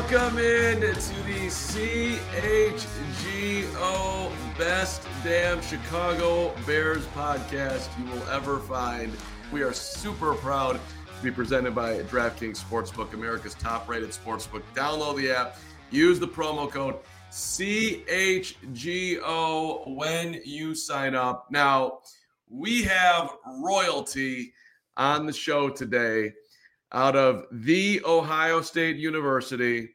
Welcome in to the CHGO Best Damn Chicago Bears podcast you will ever find. We are super proud to be presented by DraftKings Sportsbook, America's top-rated sportsbook. Download the app, use the promo code CHGO when you sign up. Now, we have royalty on the show today out of The Ohio State University,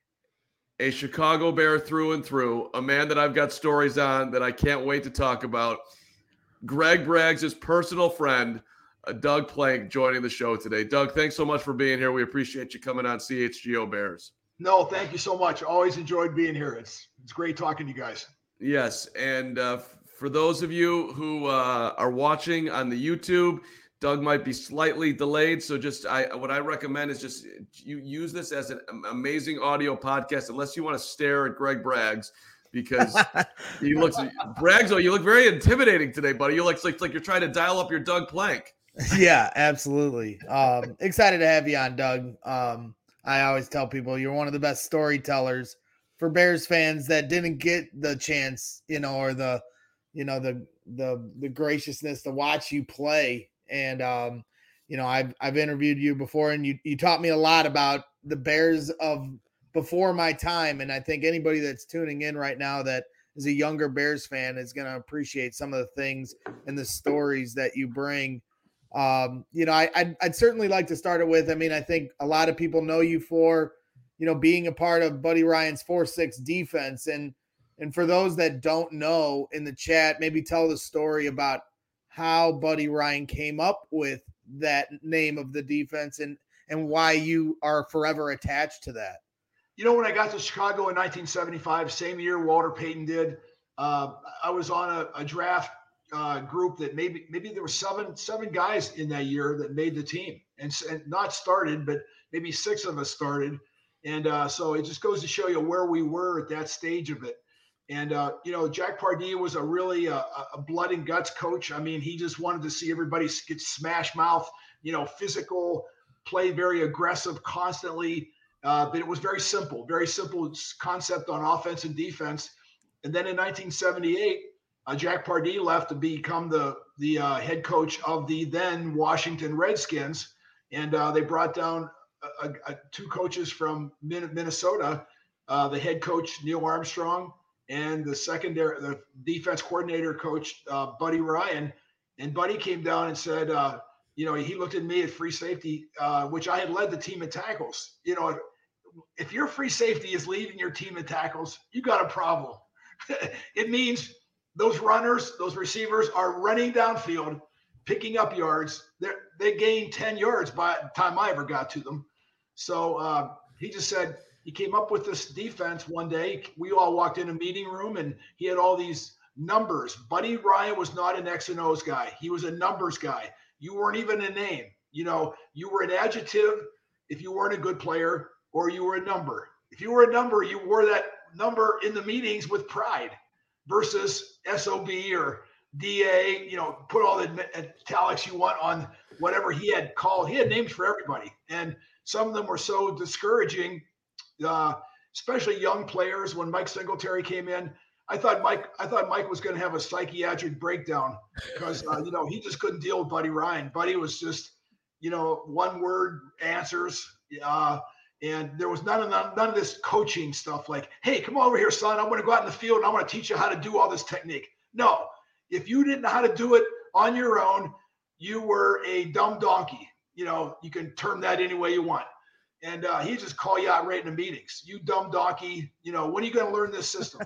a Chicago Bear through and through, a man that I've got stories on that I can't wait to talk about. Greg Braggs' personal friend, Doug Plank, joining the show today. Doug, thanks so much for being here. We appreciate you coming on CHGO Bears. No, thank you so much. Always enjoyed being here. It's great talking to you guys. Yes, and for those of you who are watching on the YouTube, Doug might be slightly delayed, so what I recommend is just you use this as an amazing audio podcast, unless you want to stare at Greg Braggs, because he looks Braggs. You look very intimidating today, buddy. You look like you're trying to dial up your Doug Plank. Yeah, absolutely. Excited to have you on, Doug. I always tell people you're one of the best storytellers for Bears fans that didn't get the chance, or the graciousness to watch you play. And, I've interviewed you before, and you taught me a lot about the Bears of before my time. And I think anybody that's tuning in right now that is a younger Bears fan is going to appreciate some of the things and the stories that you bring. I'd certainly like to start it with, I think a lot of people know you for, being a part of Buddy Ryan's 4-6 defense. And for those that don't know, in the chat, maybe tell the story about how Buddy Ryan came up with that name of the defense and why you are forever attached to that. When I got to Chicago in 1975, same year Walter Payton did, I was on a draft group that maybe there were seven guys in that year that made the team and not started, but maybe 6 of us started. And so it just goes to show you where we were at that stage of it. And, Jack Pardee was a really a blood and guts coach. He just wanted to see everybody get smash mouth, physical, play very aggressive constantly. But it was very simple concept on offense and defense. And then in 1978, Jack Pardee left to become the head coach of the then Washington Redskins. And they brought down 2 coaches from Minnesota, the head coach, Neil Armstrong, and the defense coordinator coach, Buddy Ryan. And Buddy came down and said, he looked at me at free safety, which I had led the team in tackles. If your free safety is leading your team in tackles, you got a problem. It means those runners, those receivers are running downfield, picking up yards. They gained 10 yards by the time I ever got to them. So he just said, he came up with this defense one day. We all walked in a meeting room and he had all these numbers. Buddy Ryan was not an X and O's guy. He was a numbers guy. You weren't even a name. You were an adjective if you weren't a good player, or you were a number. If you were a number, you wore that number in the meetings with pride versus SOB or DA, put all the italics you want on whatever he had called. He had names for everybody. And some of them were so discouraging, especially young players. When Mike Singletary came in, I thought Mike was going to have a psychiatric breakdown because he just couldn't deal with Buddy Ryan. Buddy was just one word answers, and there was none of this coaching stuff like, hey, come over here, son, I'm going to go out in the field and I'm going to teach you how to do all this technique. No, if you didn't know how to do it on your own, you were a dumb donkey. You can term that any way you want. And he just call you out right in the meetings. You dumb donkey, when are you going to learn this system?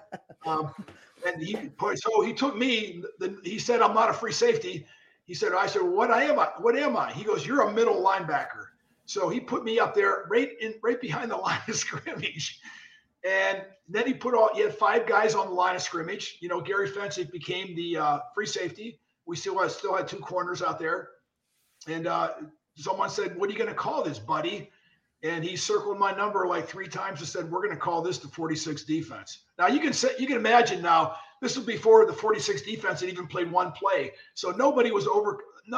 And he took me, he said, I'm not a free safety. I said, well, what am I? He goes, you're a middle linebacker. So he put me up there right behind the line of scrimmage. And then he had 5 guys on the line of scrimmage. Gary Fensick became the free safety. We still had 2 corners out there. And someone said, what are you going to call this, buddy? And he circled my number like 3 times and said, we're going to call this the 46 defense. Now you can imagine now, this was before the 46 defense had even played one play. So nobody was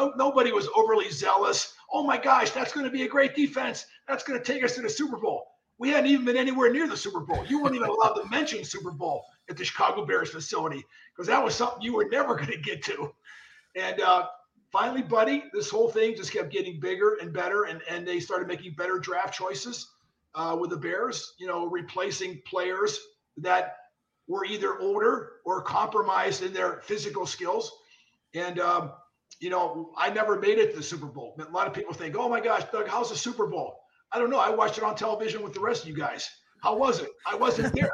overly zealous. Oh my gosh, that's going to be a great defense. That's going to take us to the Super Bowl. We hadn't even been anywhere near the Super Bowl. You weren't even allowed to mention Super Bowl at the Chicago Bears facility because that was something you were never going to get to. And finally, buddy, this whole thing just kept getting bigger and better, and they started making better draft choices with the Bears, replacing players that were either older or compromised in their physical skills. And, I never made it to the Super Bowl. A lot of people think, oh my gosh, Doug, how's the Super Bowl? I don't know. I watched it on television with the rest of you guys. How was it? I wasn't there.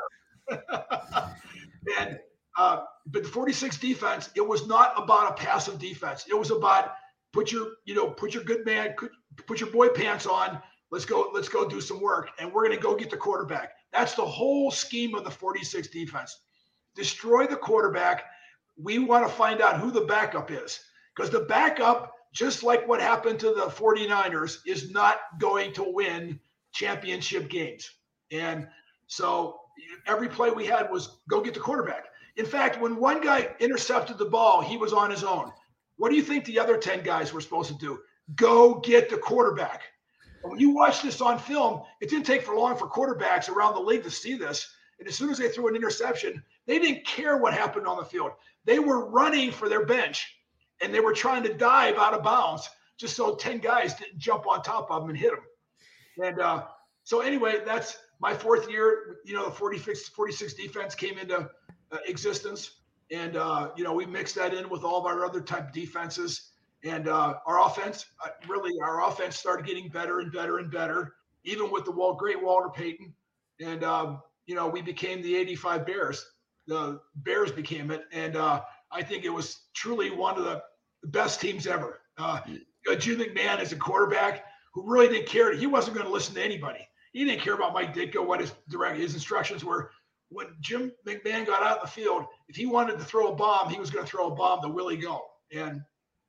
And but the 46 defense, it was not about a passive defense. It was about put your good man, put your boy pants on. Let's go do some work, and we're going to go get the quarterback. That's the whole scheme of the 46 defense. Destroy the quarterback. We want to find out who the backup is, because the backup, just like what happened to the 49ers, is not going to win championship games. And so every play we had was go get the quarterback. In fact, when one guy intercepted the ball, he was on his own. What do you think the other 10 guys were supposed to do? Go get the quarterback. And when you watch this on film, it didn't take for long for quarterbacks around the league to see this. And as soon as they threw an interception, they didn't care what happened on the field. They were running for their bench, and they were trying to dive out of bounds just so 10 guys didn't jump on top of them and hit them. And so anyway, that's my fourth year. The 46 defense came into existence. And, we mixed that in with all of our other type defenses. And our offense started getting better and better and better, even with the great Walter Payton. And, we became the 85 Bears. The Bears became it. And I think it was truly one of the best teams ever. Jim McMahon as a quarterback who really didn't care. He wasn't going to listen to anybody. He didn't care about Mike Ditka, what his instructions were. When Jim McMahon got out in the field, if he wanted to throw a bomb, he was going to throw a bomb to Willie Go. And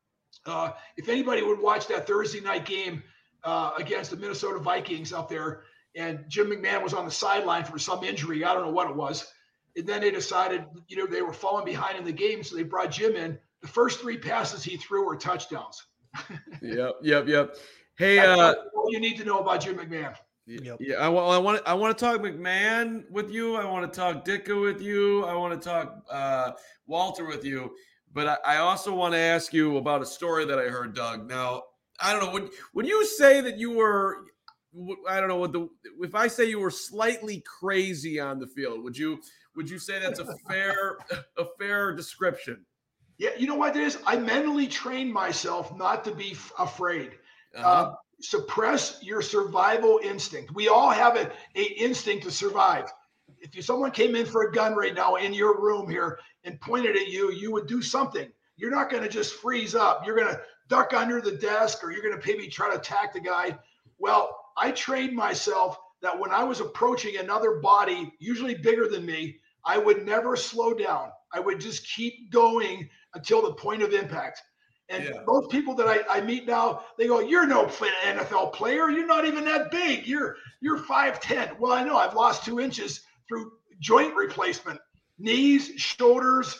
if anybody would watch that Thursday night game against the Minnesota Vikings up there, and Jim McMahon was on the sideline for some injury, I don't know what it was. And then they decided, they were falling behind in the game, so they brought Jim in. The first 3 passes he threw were touchdowns. Yep. Hey, all you need to know about Jim McMahon. Yep. Yeah, I want to talk McMahon with you. I want to talk Ditka with you. I want to talk Walter with you. But I also want to ask you about a story that I heard, Doug. Now, I don't know. Would you say that you were? I don't know if I say you were slightly crazy on the field. Would you say that's a fair description? Yeah, you know what it is? I mentally trained myself not to be afraid. Suppress your survival instinct. We all have an instinct to survive. If someone came in for a gun right now in your room here and pointed at you, you would do something. You're not going to just freeze up. You're going to duck under the desk, or you're going to maybe try to attack the guy. Well, I trained myself that when I was approaching another body, usually bigger than me, I would never slow down. I would just keep going until the point of impact. And most people that I meet now, they go, "You're no NFL player. You're not even that big. You're 5'10". Well, I know I've lost 2 inches through joint replacement, knees, shoulders.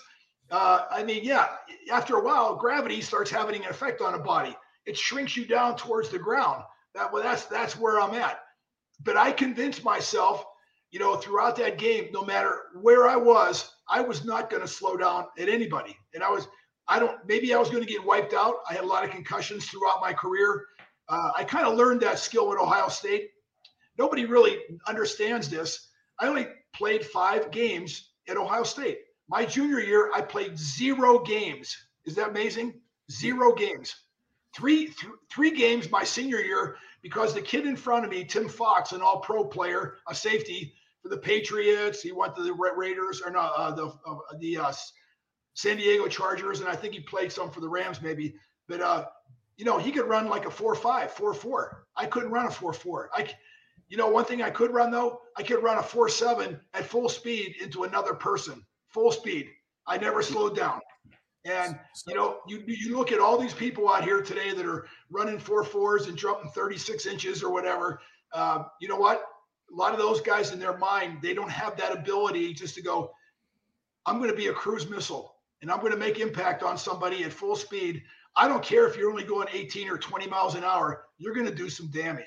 After a while, gravity starts having an effect on a body. It shrinks you down towards the ground. That's where I'm at. But I convinced myself, throughout that game, no matter where I was not going to slow down at anybody. And maybe I was going to get wiped out. I had a lot of concussions throughout my career. I kind of learned that skill at Ohio State. Nobody really understands this. I only played 5 games at Ohio State. My junior year, I played 0 games. Is that amazing? 0 games. Three games my senior year, because the kid in front of me, Tim Fox, an all-pro player, a safety for the Patriots. He went to the Raiders, or no, the San Diego Chargers, and I think he played some for the Rams maybe. But, he could run like a 4.5, 4.4. I couldn't run a 4.4. One thing I could run, though, I could run a 4.7 at full speed into another person, full speed. I never slowed down. And, you look at all these people out here today that are running 4.4s and jumping 36 inches or whatever. You know what? A lot of those guys in their mind, they don't have that ability just to go, I'm going to be a cruise missile and I'm going to make impact on somebody at full speed. I don't care if you're only going 18 or 20 miles an hour. You're going to do some damage.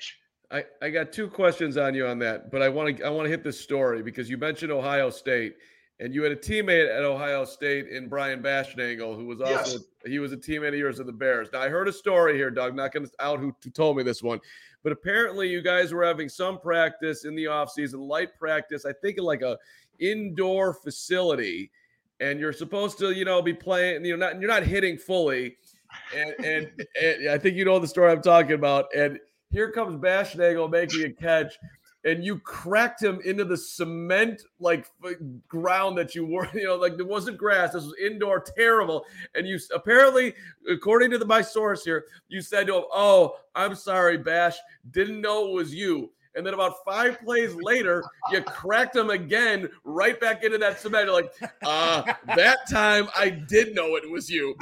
I got two questions on you on that, but I want to hit this story because you mentioned Ohio State, and you had a teammate at Ohio State in Brian Bashnagel, who was also Yes. he was a teammate of yours of the Bears. Now I heard a story here, Doug. Not going to out who told me this one, but apparently you guys were having some practice in the offseason, light practice. I think in like a indoor facility, and you're supposed to be playing. You're not hitting fully, and I think you know the story I'm talking about, and here comes Bashnagel making a catch, and you cracked him into the cement ground that you were, like it wasn't grass. This was indoor, terrible. And you apparently, according to my source here, you said to him, "Oh, I'm sorry, Bash, didn't know it was you." And then about 5 plays later, you cracked him again, right back into that cement. You're like, that time I did know it was you.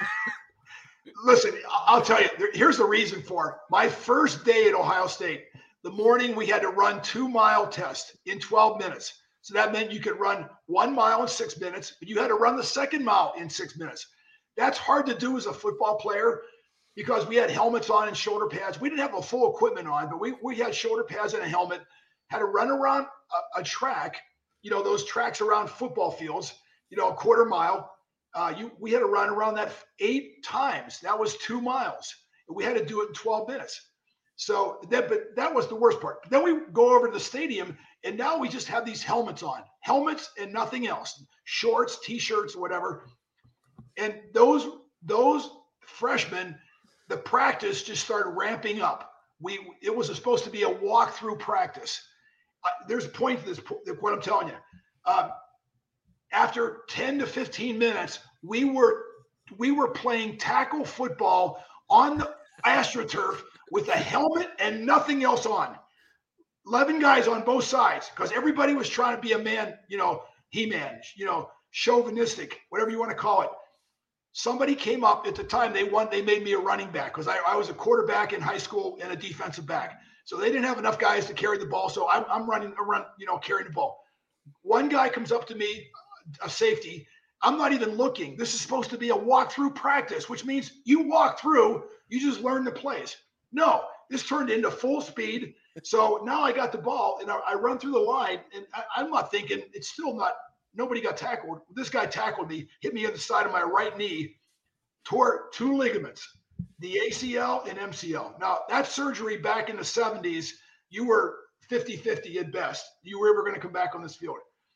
Listen, I'll tell you, here's the reason for it. My first day at Ohio State, the morning we had to run 2-mile test in 12 minutes. So that meant you could run 1 mile in 6 minutes, but you had to run the second mile in 6 minutes. That's hard to do as a football player because we had helmets on and shoulder pads. We didn't have a full equipment on, but we had shoulder pads and a helmet, had to run around a track, those tracks around football fields, a quarter mile. We had to run around that 8 times. That was 2 miles. And we had to do it in 12 minutes. But that was the worst part. But then we go over to the stadium, and now we just have these helmets on, helmets and nothing else, shorts, T-shirts, whatever. And those freshmen, the practice just started ramping up. It was supposed to be a walk-through practice. There's a point to this, what I'm telling you. After 10 to 15 minutes, we were playing tackle football on the AstroTurf with a helmet and nothing else on. 11 guys on both sides because everybody was trying to be a man, He-Man, chauvinistic, whatever you want to call it. Somebody came up at the time they made me a running back because I was a quarterback in high school and a defensive back. So they didn't have enough guys to carry the ball. So I'm running around, carrying the ball. One guy comes up to me, a safety. I'm not even looking. This is supposed to be a walk-through practice, which means you walk through, you just learn the plays. No, this turned into full speed. So now I got the ball and I run through the line and I'm not thinking it's still not, nobody got tackled. This guy tackled me, hit me on the side of my right knee, tore 2 ligaments, the ACL and MCL. Now that surgery back in the 70s, you were 50-50 at best. You were ever going to come back on this field.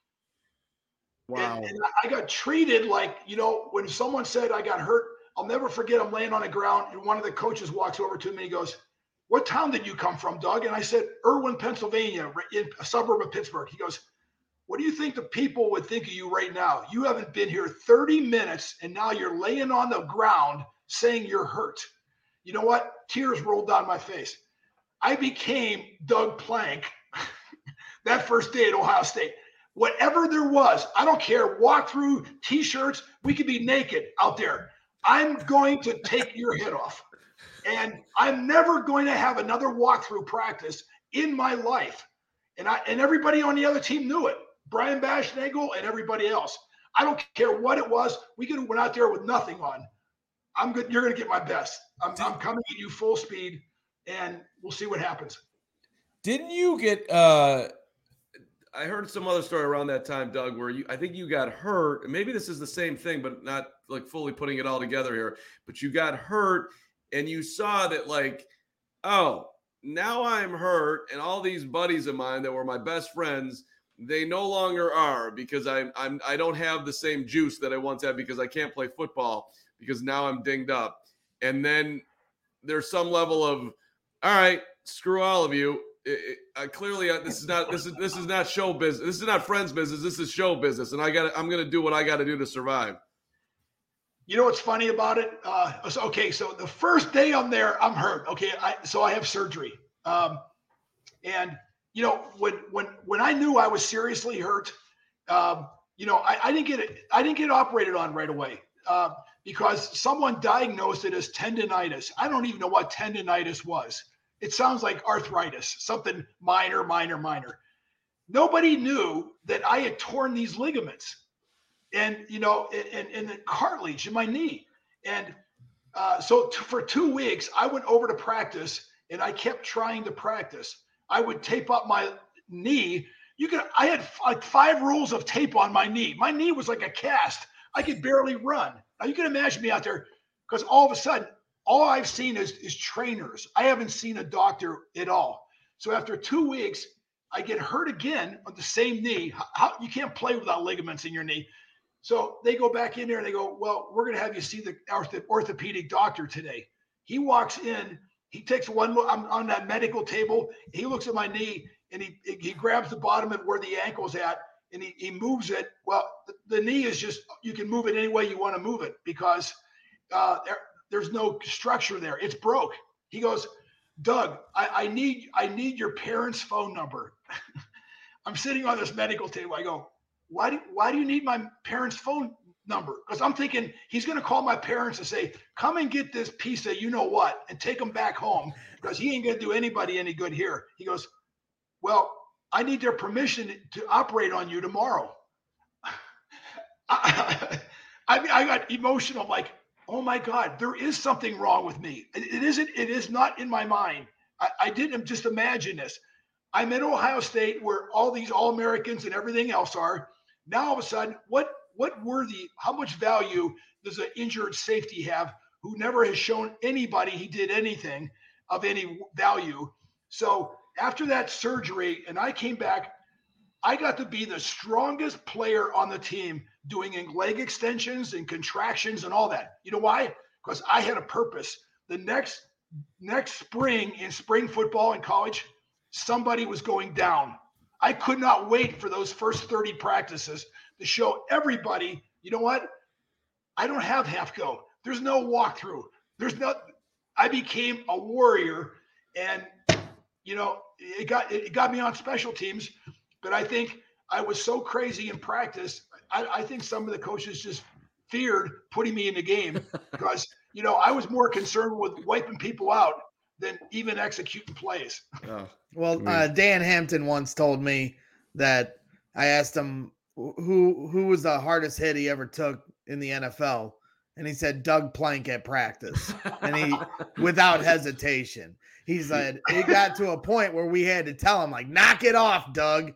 Wow. And I got treated like, when someone said I got hurt, I'll never forget, I'm laying on the ground and one of the coaches walks over to me and he goes, "What town did you come from, Doug?" And I said, "Irwin, Pennsylvania, in a suburb of Pittsburgh." He goes, "What do you think the people would think of you right now? You haven't been here 30 minutes and now you're laying on the ground saying you're hurt." You know what? Tears rolled down my face. I became Doug Plank that first day at Ohio State. Whatever there was, I don't care, walk through, T-shirts, we could be naked out there. I'm going to take your head off. And I'm never going to have another walkthrough practice in my life. And everybody on the other team knew it. Brian Bashnagel and everybody else. I don't care what it was. We could have went out there with nothing on. I'm good. You're going to get my best. I'm coming at you full speed, and we'll see what happens. Didn't you get I heard some other story around that time, Doug, where I think you got hurt. Maybe this is the same thing, but not like fully putting it all together here. But you got hurt and you saw that oh, now I'm hurt. And all these buddies of mine that were my best friends, they no longer are because I don't have the same juice that I once had because I can't play football because now I'm dinged up. And then there's some level of, all right, screw all of you. Clearly, this is not show business. This is not friends business. This is show business, and I'm gonna do what I got to do to survive. You know what's funny about it? So the first day I'm there, I'm hurt. Okay, so I have surgery, and when I knew I was seriously hurt, I didn't get it. I didn't get operated on right away because someone diagnosed it as tendonitis. I don't even know what tendonitis was. It sounds like arthritis, something minor. Nobody knew that I had torn these ligaments and the cartilage in my knee. And so for 2 weeks, I went over to practice and I kept trying to practice. I would tape up my knee. I had like 5 rolls of tape on my knee. My knee was like a cast. I could barely run. Now you can imagine me out there, because all of a sudden, all I've seen is trainers. I haven't seen a doctor at all. So after 2 weeks, I get hurt again on the same knee. You can't play without ligaments in your knee. So they go back in there and they go, well, we're going to have you see the orthopedic doctor today. He walks in. He takes one look. I'm on that medical table. He looks at my knee and he grabs the bottom of where the ankle's at and he moves it. Well, the knee is just, you can move it any way you want to move it because there's no structure there. It's broke. He goes, Doug, I need your parents' phone number. I'm sitting on this medical table. I go, why do you need my parents' phone number? Because I'm thinking he's going to call my parents and say, come and get this piece of you know what and take them back home because he ain't going to do anybody any good here. He goes, well, I need their permission to operate on you tomorrow. I got emotional. I'm like, oh my God, there is something wrong with me. It is not in my mind. I didn't just imagine this. I'm at Ohio State where all these All-Americans and everything else are. Now all of a sudden, how much value does an injured safety have who never has shown anybody he did anything of any value? So after that surgery, and I came back, I got to be the strongest player on the team doing leg extensions and contractions and all that. You know why? Because I had a purpose. The next spring in spring football in college, somebody was going down. I could not wait for those first 30 practices to show everybody, you know what? I don't have half go. There's no walkthrough. I became a warrior, and it got me on special teams. But I think I was so crazy in practice. I think some of the coaches just feared putting me in the game because I was more concerned with wiping people out than even executing plays. Oh. Well, Dan Hampton once told me that I asked him who was the hardest hit he ever took in the NFL, and he said Doug Plank at practice, and he without hesitation. He said it got to a point where we had to tell him like, knock it off, Doug.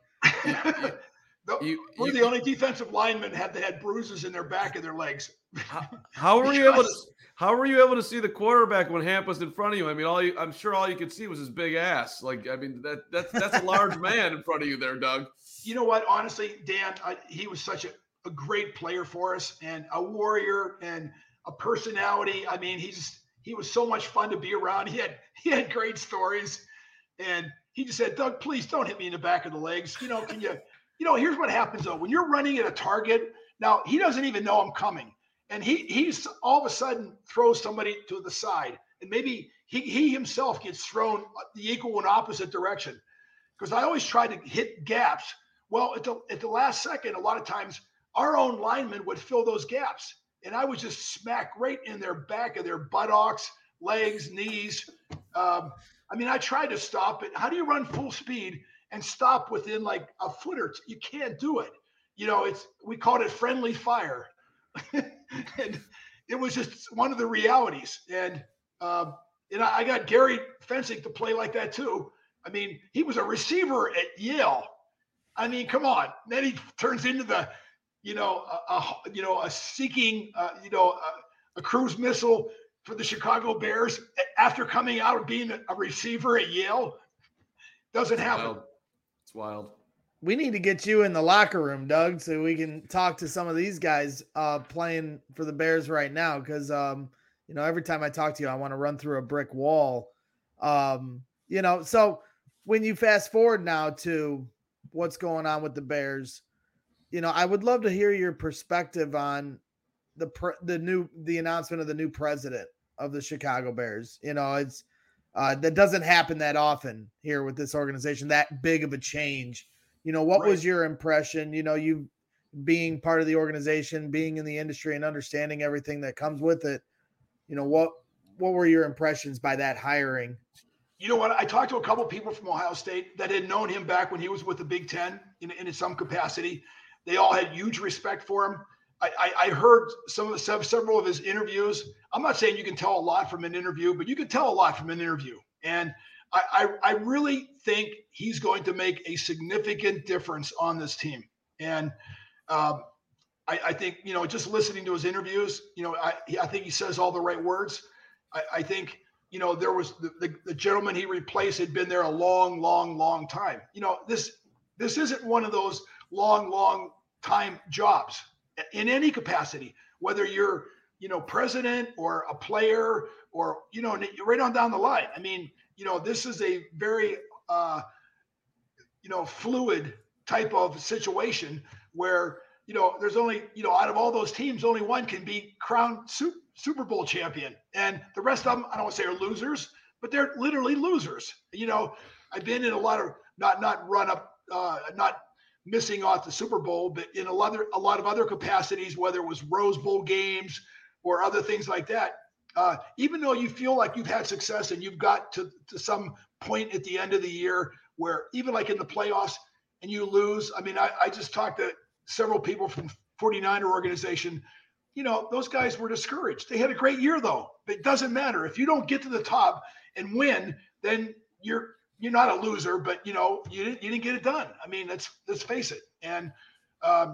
We're the only defensive linemen that had bruises in their back of their legs. How were you able to see the quarterback when Hamp was in front of you? I mean, I'm sure all you could see was his big ass. Like, I mean, that's a large man in front of you there, Doug. You know what? Honestly, Dan, he was such a great player for us and a warrior and a personality. I mean, he was so much fun to be around. He had great stories, and he just said, Doug, please don't hit me in the back of the legs. Can you? Here's what happens though. When you're running at a target, now he doesn't even know I'm coming. And he's all of a sudden throws somebody to the side. And maybe he himself gets thrown the equal and opposite direction. Because I always try to hit gaps. Well, at the last second, a lot of times our own linemen would fill those gaps. And I would just smack right in their back of their buttocks, legs, knees. I tried to stop it. How do you run full speed and stop within like a foot or two? You can't do it. We called it friendly fire. And it was just one of the realities. And I got Gary Fencing to play like that too. I mean, he was a receiver at Yale. I mean, come on. Then he turns into the, a seeking, a cruise missile for the Chicago Bears after coming out of being a receiver at Yale. Doesn't happen. It's wild. We need to get you in the locker room, Doug, so we can talk to some of these guys playing for the Bears right now. Because, every time I talk to you, I want to run through a brick wall. So when you fast forward now to what's going on with the Bears, I would love to hear your perspective on the announcement of the new president of the Chicago Bears. It's that doesn't happen that often here with this organization, that big of a change. What was your impression? You being part of the organization, being in the industry and understanding everything that comes with it. What were your impressions by that hiring? You know what? I talked to a couple of people from Ohio State that had known him back when he was with the Big Ten in some capacity. They all had huge respect for him. I heard several of his interviews. I'm not saying you can tell a lot from an interview, but you can tell a lot from an interview. And I really think he's going to make a significant difference on this team. And I think, just listening to his interviews, I think he says all the right words. I think, there was the gentleman he replaced had been there a long, long, long time. This isn't one of those long time jobs in any capacity, whether you're, president or a player or, right on down the line. I mean, this is a very, fluid type of situation where, there's only, out of all those teams, only one can be crowned Super Bowl champion. And the rest of them, I don't want to say are losers, but they're literally losers. I've been in a lot of, not missing off the Super Bowl, but in a lot of other capacities, whether it was Rose Bowl games or other things like that. Even though you feel like you've had success and you've got to some point at the end of the year where even like in the playoffs and you lose. I mean, I just talked to several people from 49er organization. Those guys were discouraged. They had a great year though. It doesn't matter. If you don't get to the top and win, then you're not a loser, but you didn't get it done. I mean, let's face it. And and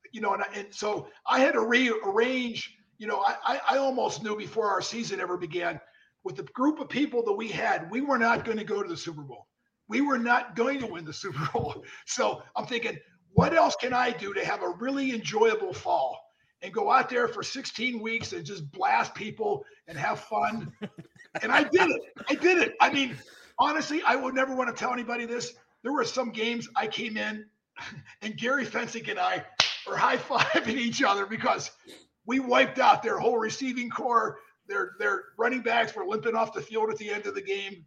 so I had to rearrange. I almost knew before our season ever began, with the group of people that we had, we were not going to go to the Super Bowl. We were not going to win the Super Bowl. So I'm thinking, what else can I do to have a really enjoyable fall and go out there for 16 weeks and just blast people and have fun? And I did it. I mean, honestly, I would never want to tell anybody this. There were some games I came in and Gary Fensick and I were high-fiving each other because we wiped out their whole receiving core. Their running backs were limping off the field at the end of the game.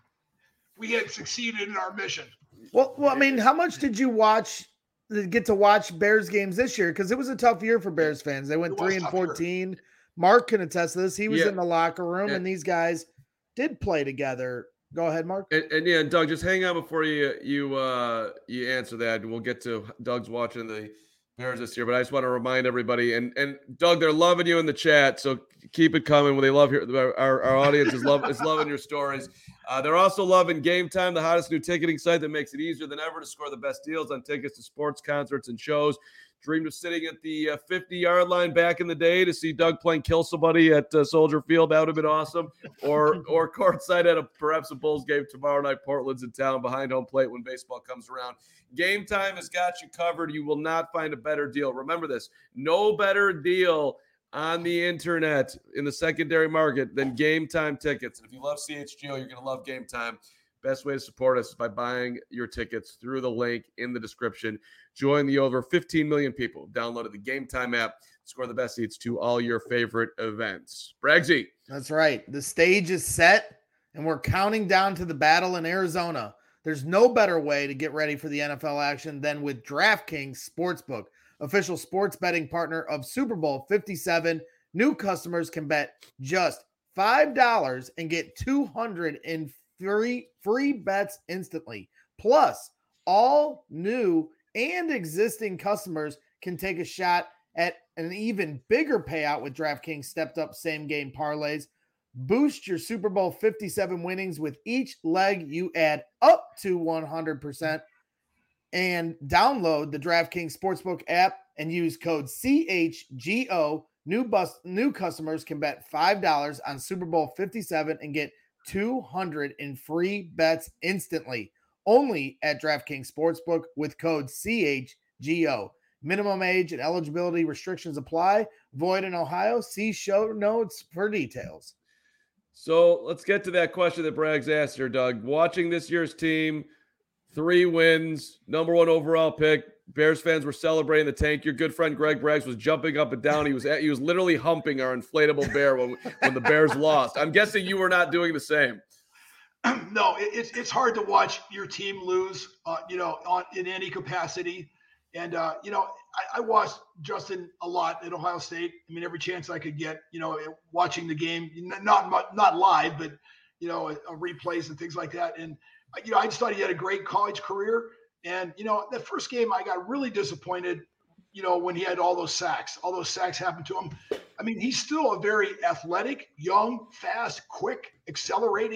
We had succeeded in our mission. Well, I mean, how much did you get to watch Bears games this year? Because it was a tough year for Bears fans. They went 3-14. Mark can attest to this. He was in the locker room, and these guys did play together. Go ahead, Mark. And Doug, just hang on before you answer that, and we'll get to Doug's watching the Bears this year. But I just want to remind everybody, and Doug, they're loving you in the chat, so keep it coming. They love our audience is loving your stories. They're also loving Game Time, the hottest new ticketing site that makes it easier than ever to score the best deals on tickets to sports, concerts, and shows. Dreamed of sitting at the 50-yard line back in the day to see Doug playing Kill Somebody at Soldier Field. That would have been awesome. Or courtside at perhaps a Bulls game tomorrow night. Portland's in town behind home plate when baseball comes around. Game Time has got you covered. You will not find a better deal. Remember this, no better deal on the internet in the secondary market than Game Time tickets. And if you love CHGO, you're going to love Game Time. Best way to support us is by buying your tickets through the link in the description. Join the over 15 million people who downloaded the Game Time app. Score the best seats to all your favorite events. Bragsy. That's right. The stage is set, and we're counting down to the battle in Arizona. There's no better way to get ready for the NFL action than with DraftKings Sportsbook, official sports betting partner of Super Bowl 57. New customers can bet just $5 and get 200 in free bets instantly. Plus, all new and existing customers can take a shot at an even bigger payout with DraftKings stepped up same game parlays. Boost your Super Bowl 57 winnings with each leg you add up to 100%. And download the DraftKings Sportsbook app and use code CHGO. New customers can bet $5 on Super Bowl 57 and get 200 in free bets instantly. Only at DraftKings Sportsbook with code CHGO. Minimum age and eligibility restrictions apply. Void in Ohio. See show notes for details. So let's get to that question that Braggs asked here, Doug. Watching this year's team, 3 wins, number 1 overall pick. Bears fans were celebrating the tank. Your good friend Greg Braggs was jumping up and down. He was literally humping our inflatable bear when the Bears lost. I'm guessing you were not doing the same. No, it's hard to watch your team lose, in any capacity. And, I watched Justin a lot at Ohio State. I mean, every chance I could get, watching the game, not live, but, replays and things like that. And, I just thought he had a great college career. And, the first game I got really disappointed, when he had all those sacks happened to him. I mean, he's still a very athletic, young, fast, quick, accelerating,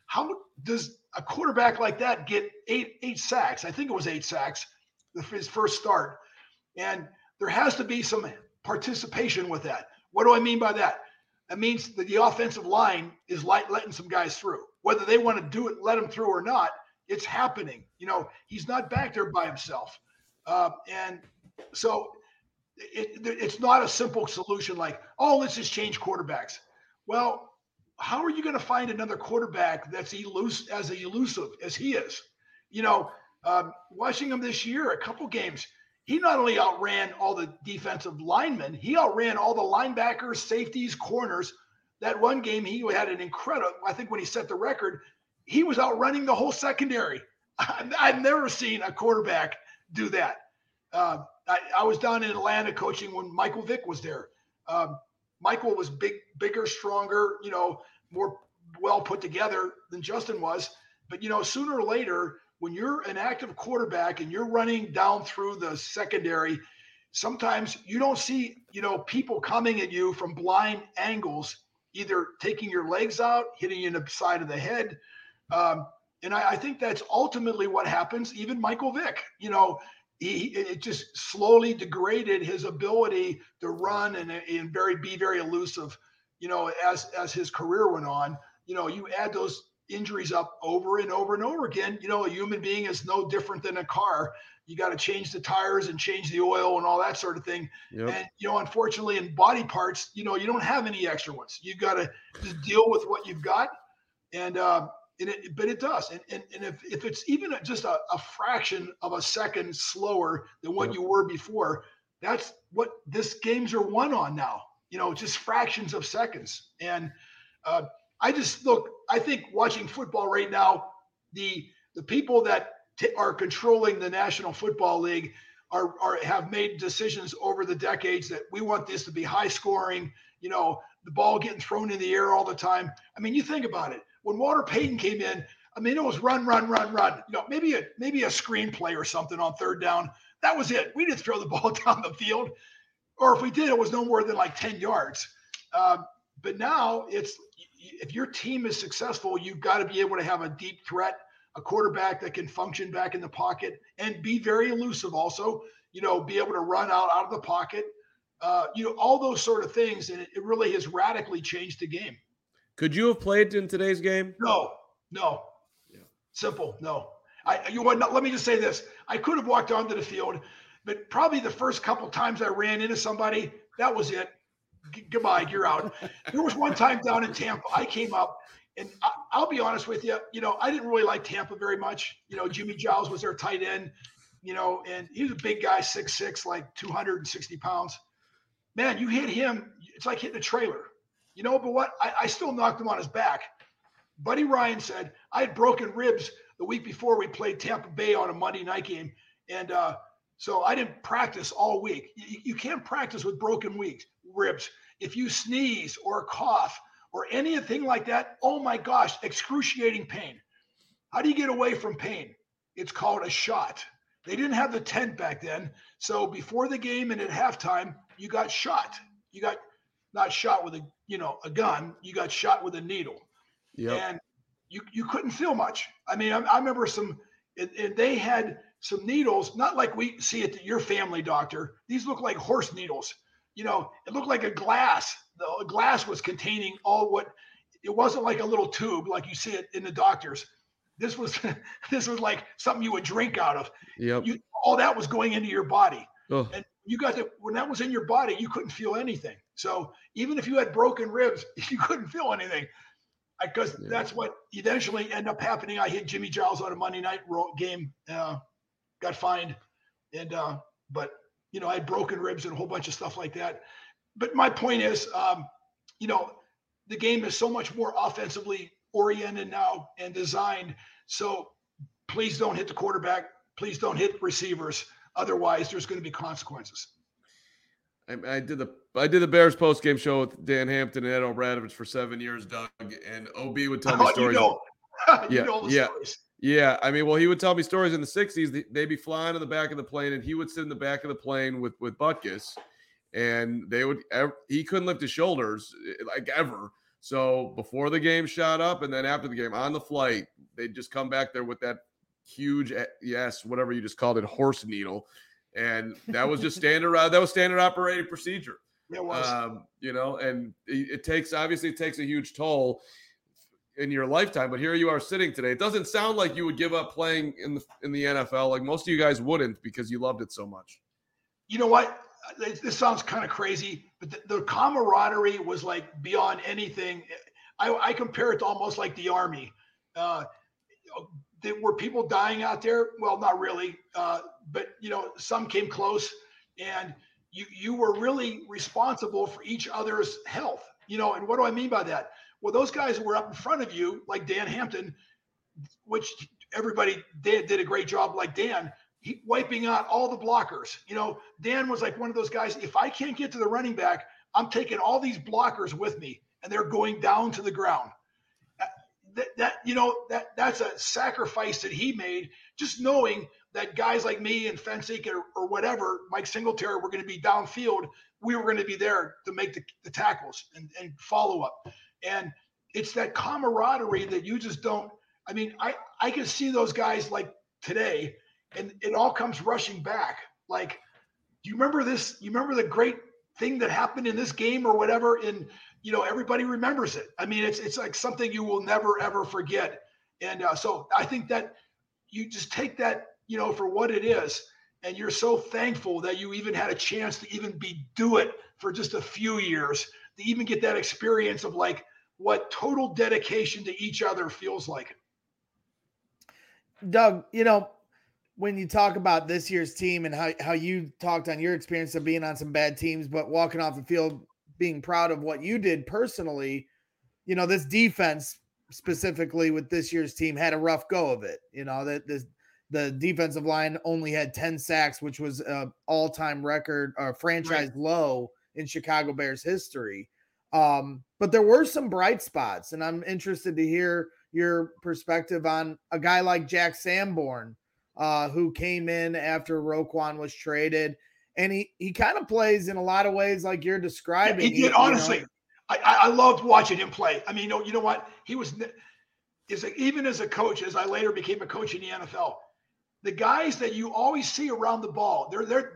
How does a quarterback like that get eight sacks? I think it was 8 sacks his first start. And there has to be some participation with that. What do I mean by that? That means that the offensive line is letting some guys through. Whether they want to do it, let them through or not, it's happening. He's not back there by himself. And so it's not a simple solution like, oh, let's just change quarterbacks. Well, how are you going to find another quarterback that's elusive as he is? Watching him this year, a couple games, he not only outran all the defensive linemen, he outran all the linebackers, safeties, corners. That one game, he had an incredible, I think when he set the record, he was outrunning the whole secondary. I've never seen a quarterback do that. I was down in Atlanta coaching when Michael Vick was there. Michael was bigger, stronger, more well put together than Justin was. But, sooner or later, when you're an active quarterback and you're running down through the secondary, sometimes you don't see, people coming at you from blind angles, either taking your legs out, hitting you in the side of the head. And I think that's ultimately what happens. Even Michael Vick, it just slowly degraded his ability to run and be very elusive, as his career went on. You add those injuries up over and over and over again. A human being is no different than a car. You got to change the tires and change the oil and all that sort of thing. Yep. And, unfortunately in body parts, you don't have any extra ones. You got to just deal with what you've got. But it does. And if it's even just a fraction of a second slower than what you were before, that's what this games are won on now, just fractions of seconds. And I think watching football right now, the people that are controlling the National Football League have made decisions over the decades that we want this to be high scoring, the ball getting thrown in the air all the time. I mean, you think about it. When Walter Payton came in, I mean, it was run. Maybe a screenplay or something on third down. That was it. We didn't throw the ball down the field, or if we did, it was no more than like 10 yards. But now if your team is successful, you've got to be able to have a deep threat, a quarterback that can function back in the pocket and be very elusive also, be able to run out of the pocket, all those sort of things. And it really has radically changed the game. Could you have played in today's game? No. Yeah. Simple. No. Let me just say this. I could have walked onto the field, but probably the first couple times I ran into somebody, that was it. Goodbye, you're out. There was one time down in Tampa, I came up, and I'll be honest with you, I didn't really like Tampa very much. Jimmy Giles was their tight end, and he was a big guy, 6'6", like 260 pounds. Man, you hit him, it's like hitting a trailer. But what? I still knocked him on his back. Buddy Ryan said, I had broken ribs the week before we played Tampa Bay on a Monday night game. And so I didn't practice all week. You can't practice with broken ribs. If you sneeze or cough or anything like that, oh my gosh, excruciating pain. How do you get away from pain? It's called a shot. They didn't have the tent back then. So before the game and at halftime, you got shot. You got not shot with a gun, you got shot with a needle. Yep. And you couldn't feel much. I mean, I remember and they had some needles, not like we see at your family doctor. These look like horse needles. It looked like a glass. The glass was containing it wasn't like a little tube like you see it in the doctors. This was like something you would drink out of. Yep. All that was going into your body. Oh. And when that was in your body, you couldn't feel anything. So even if you had broken ribs, you couldn't feel anything, because that's what eventually ended up happening. I hit Jimmy Giles on a Monday night game, got fined, and but I had broken ribs and a whole bunch of stuff like that. But my point is, the game is so much more offensively oriented now and designed. So please don't hit the quarterback. Please don't hit receivers. Otherwise, there's going to be consequences. I did the Bears post-game show with Dan Hampton and Ed O'Bradovich for 7 years, Doug, and OB would tell me stories. Stories. Yeah. I mean, well, he would tell me stories in the 60s. They'd be flying in the back of the plane, and he would sit in the back of the plane with Butkus, and he couldn't lift his shoulders like ever. So before the game shot up and then after the game on the flight, they'd just come back there with that huge, whatever you just called it, horse needle. And that was just standard operating procedure. It was. And it takes a huge toll in your lifetime, but here you are sitting today. It doesn't sound like you would give up playing in the NFL. Like most of you guys wouldn't, because you loved it so much. You know what? This sounds kind of crazy, but the camaraderie was like beyond anything. I compare it to almost like the Army. Were people dying out there? Well, not really, but some came close, and you were really responsible for each other's health. And what do I mean by that? Well, those guys were up in front of you, like Dan Hampton, which everybody did a great job, like Dan, wiping out all the blockers. Dan was like one of those guys, if I can't get to the running back, I'm taking all these blockers with me, and they're going down to the ground. That's a sacrifice that he made, just knowing that guys like me and Fensick or whatever, Mike Singletary, were going to be downfield. We were going to be there to make the tackles and follow up. And it's that camaraderie that you just don't. I mean, I can see those guys like today, and it all comes rushing back. Like, do you remember this? You remember the great thing that happened in this game or whatever? And everybody remembers it. I mean, it's like something you will never ever forget. And so I think that you just take that for what it is, and you're so thankful that you even had a chance to even do it for just a few years, to even get that experience of like what total dedication to each other feels like. Doug, when you talk about this year's team and how you talked on your experience of being on some bad teams, but walking off the field, being proud of what you did personally, this defense specifically with this year's team had a rough go of it. The defensive line only had 10 sacks, which was an all-time record or franchise low in Chicago Bears history. But there were some bright spots, and I'm interested to hear your perspective on a guy like Jack Sanborn, who came in after Roquan was traded. And he kind of plays in a lot of ways like you're describing. He did, honestly. I loved watching him play. I mean, you know what? He was even as a coach, as I later became a coach in the NFL, the guys that you always see around the ball,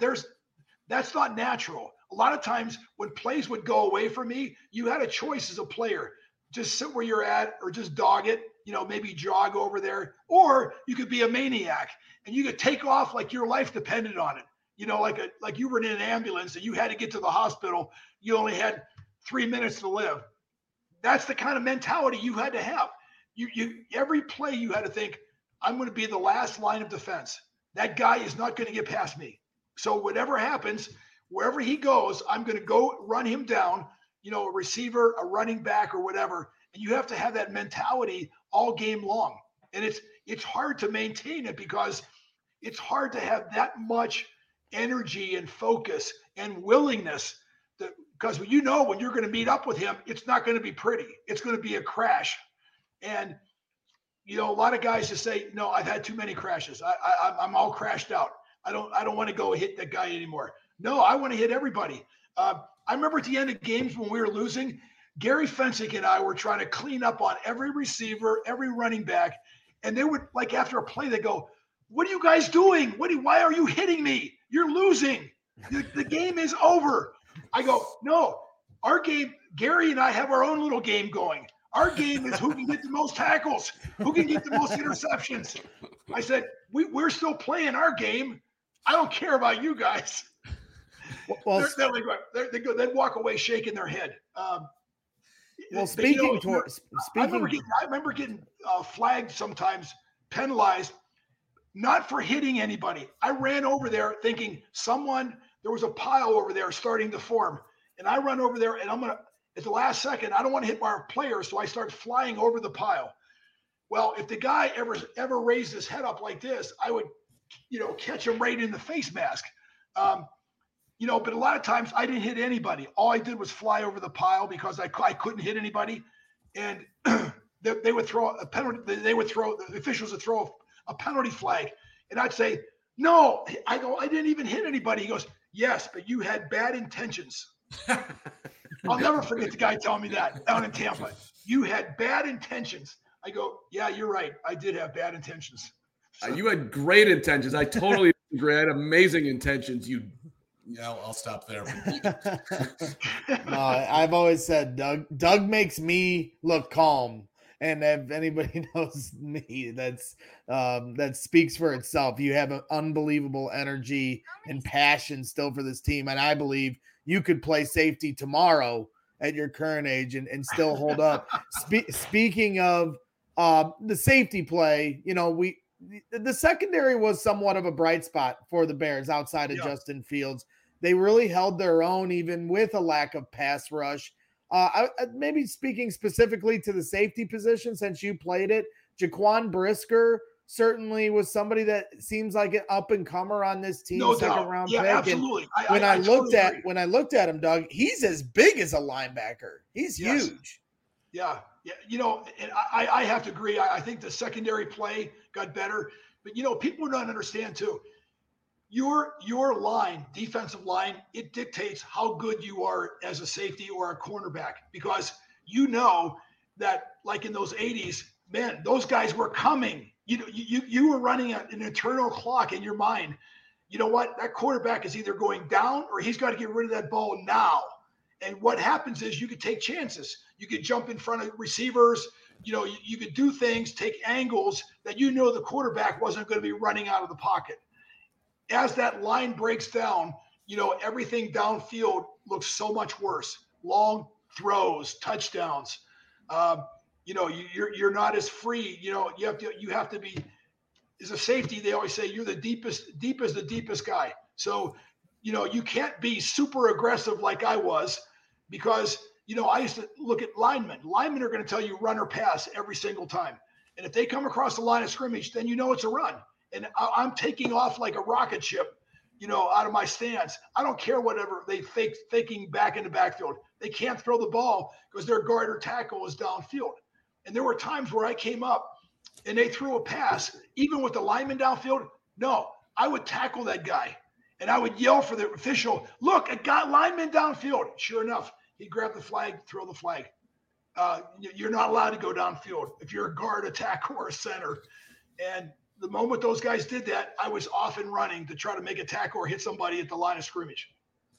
that's not natural. A lot of times when plays would go away from me, you had a choice as a player. Just sit where you're at or just dog it, maybe jog over there. Or you could be a maniac and you could take off like your life depended on it. Like you were in an ambulance and you had to get to the hospital. You only had 3 minutes to live. That's the kind of mentality you had to have. You every play you had to think, I'm going to be the last line of defense. That guy is not going to get past me. So whatever happens, wherever he goes, I'm going to go run him down, a receiver, a running back or whatever. And you have to have that mentality all game long. And it's hard to maintain it because it's hard to have that much energy and focus and willingness because when you're going to meet up with him, it's not going to be pretty. It's going to be a crash. And a lot of guys just say, no, I've had too many crashes. I'm all crashed out. I don't want to go hit that guy anymore. No, I want to hit everybody. I remember at the end of games when we were losing, Gary Fensick and I were trying to clean up on every receiver, every running back. And they would, like, after a play, they go, what are you guys doing? Why are you hitting me? You're losing. The game is over. I go, no, our game, Gary and I have our own little game going. Our game is who can get the most tackles, who can get the most interceptions. I said, we're still playing our game. I don't care about you guys. Well, they'd walk away shaking their head. I remember getting flagged sometimes, penalized, not for hitting anybody. I ran over there thinking there was a pile over there starting to form. And I run over there and at the last second, I don't want to hit my player. So I start flying over the pile. Well, if the guy ever raised his head up like this, I would, catch him right in the face mask. But a lot of times I didn't hit anybody. All I did was fly over the pile because I couldn't hit anybody. And they would throw a penalty. The officials would throw a penalty flag. And I'd say, no, I didn't even hit anybody. He goes, yes, but you had bad intentions. I'll never forget the guy telling me that down in Tampa. You had bad intentions. I go, yeah, you're right. I did have bad intentions. You had great intentions. I totally agree. I had amazing intentions. I'll stop there. No, I've always said Doug makes me look calm. And if anybody knows me, that speaks for itself. You have an unbelievable energy and passion still for this team. And I believe you could play safety tomorrow at your current age and still hold up. Speaking of the safety play, the secondary was somewhat of a bright spot for the Bears outside of Justin Fields. They really held their own even with a lack of pass rush. Maybe speaking specifically to the safety position, since you played it, Jaquan Brisker certainly was somebody that seems like an up and comer on this team. No second doubt. round Yeah, pick. absolutely. And when I looked at him, Doug, he's as big as a linebacker. He's huge. Yeah. And I have to agree. I think the secondary play got better, but people don't understand too. Your line, defensive line, it dictates how good you are as a safety or a cornerback, because that like in those 80s, man, those guys were coming. You were running an internal clock in your mind. You know what? That quarterback is either going down or he's got to get rid of that ball now. And what happens is you could take chances. You could jump in front of receivers. You could do things, take angles that the quarterback wasn't going to be running out of the pocket. As that line breaks down, everything downfield looks so much worse. Long throws, touchdowns. You're not as free. You have to be, as a safety, they always say you're the deep is the deepest guy. So, you can't be super aggressive like I was, because, I used to look at linemen. Linemen are going to tell you run or pass every single time. And if they come across the line of scrimmage, then it's a run. And I'm taking off like a rocket ship, out of my stance. I don't care whatever they faking back in the backfield. They can't throw the ball because their guard or tackle is downfield. And there were times where I came up and they threw a pass, even with the lineman downfield. No, I would tackle that guy and I would yell for the official, look, I got lineman downfield. Sure enough, he grabbed the flag, throw the flag. You're not allowed to go downfield if you're a guard, a tackle, or a center. And the moment those guys did that, I was off and running to try to make a tackle or hit somebody at the line of scrimmage.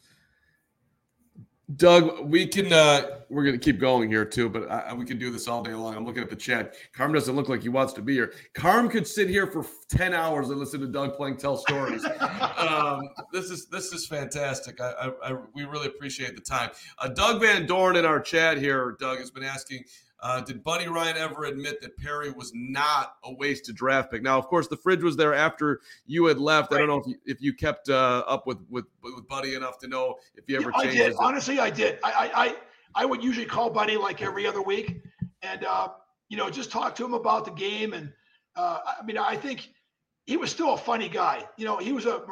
Doug, we're going to keep going here too, but we can do this all day long. I'm looking at the chat. Carm doesn't look like he wants to be here. Carm could sit here for 10 hours and listen to Doug Plank tell stories. This is fantastic. We really appreciate the time. Doug Van Dorn in our chat here, Doug, has been asking, did Buddy Ryan ever admit that Perry was not a wasted draft pick? Now, of course, the fridge was there after you had left. Right. I don't know if you kept up with Buddy enough to know if he ever changed. I did. Honestly, I did. I would usually call Buddy like every other week and, just talk to him about the game. And, I think he was still a funny guy. He was an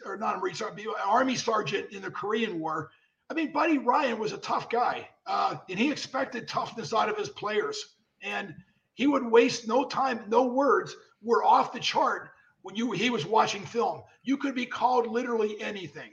Army sergeant in the Korean War. Buddy Ryan was a tough guy, and he expected toughness out of his players. And he would waste no time, no words were off the chart when he was watching film. You could be called literally anything.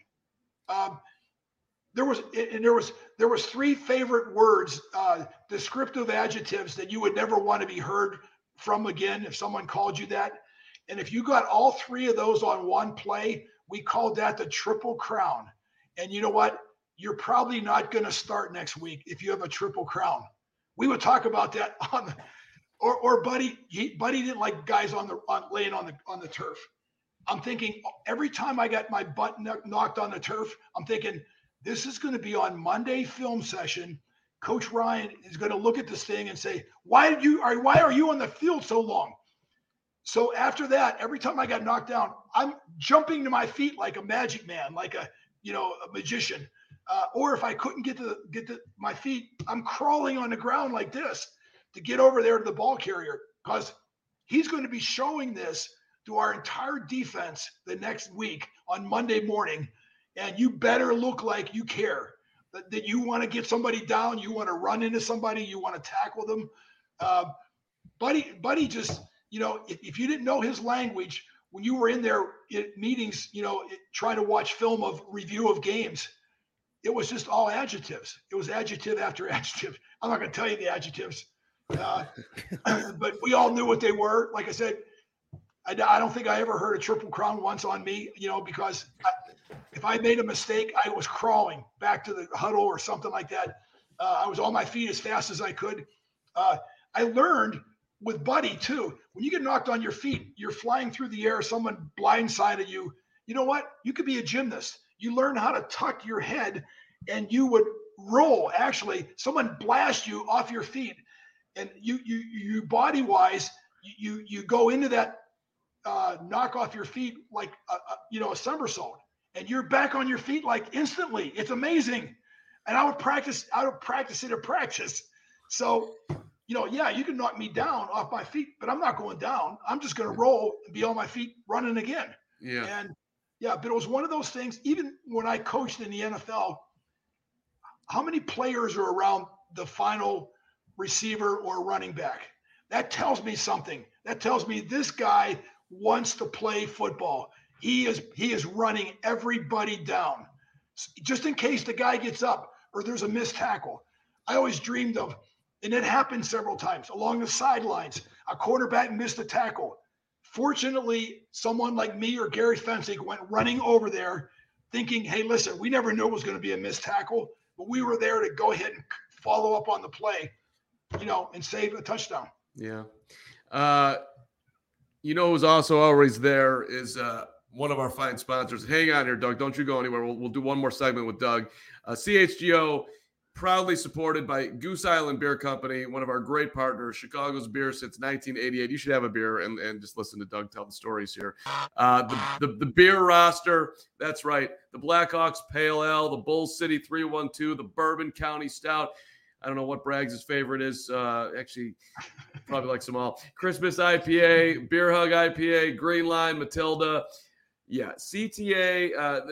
There was three favorite words, descriptive adjectives that you would never want to be heard from again if someone called you that. And if you got all three of those on one play, we called that the Triple Crown. And you know what? You're probably not going to start next week if you have a Triple Crown. We would talk about that or Buddy. Buddy didn't like guys laying on the turf. I'm thinking every time I got my butt knocked on the turf, I'm thinking this is going to be on Monday film session. Coach Ryan is going to look at this thing and say, why are you on the field so long? So after that, every time I got knocked down, I'm jumping to my feet like a magic man, like a magician. Or if I couldn't get to my feet, I'm crawling on the ground like this to get over there to the ball carrier, because he's going to be showing this to our entire defense the next week on Monday morning. And you better look like you care, that you want to get somebody down, you want to run into somebody, you want to tackle them. Buddy just, if you didn't know his language, when you were in there at meetings, trying to watch film of review of games, it was just all adjectives. It was adjective after adjective. I'm not going to tell you the adjectives, but we all knew what they were. Like I said, I don't think I ever heard a triple crown once on me, because if I made a mistake, I was crawling back to the huddle or something like that. I was on my feet as fast as I could. I learned with Buddy too. When you get knocked on your feet, you're flying through the air, someone blindsided you. You know what? You could be a gymnast. You learn how to tuck your head and you would roll. Actually, someone blast you off your feet and you body wise, you go into that knock off your feet like a somersault, and you're back on your feet like instantly. It's amazing. And I would practice it at practice. So, yeah, you can knock me down off my feet, but I'm not going down. I'm just going to roll and be on my feet running again. Yeah. And yeah, but it was one of those things. Even when I coached in the NFL, how many players are around the final receiver or running back? That tells me something. That tells me this guy wants to play football. He is running everybody down just in case the guy gets up or there's a missed tackle. I always dreamed of, and it happened several times along the sidelines, a quarterback missed a tackle. Fortunately, someone like me or Gary Fensick went running over there thinking, hey, listen, we never knew it was going to be a missed tackle, but we were there to go ahead and follow up on the play, and save a touchdown. Yeah. Who's also always there is one of our fine sponsors. Hang on here, Doug. Don't you go anywhere. We'll do one more segment with Doug. CHGO, proudly supported by Goose Island Beer Company, one of our great partners, Chicago's beer since 1988. You should have a beer and just listen to Doug tell the stories here. The beer roster, that's right. The Blackhawks Pale Ale, the Bull City 312, the Bourbon County Stout. I don't know what Braggs' favorite is. Actually, probably likes them all. Christmas IPA, Beer Hug IPA, Green Line, Matilda. Yeah, CTA.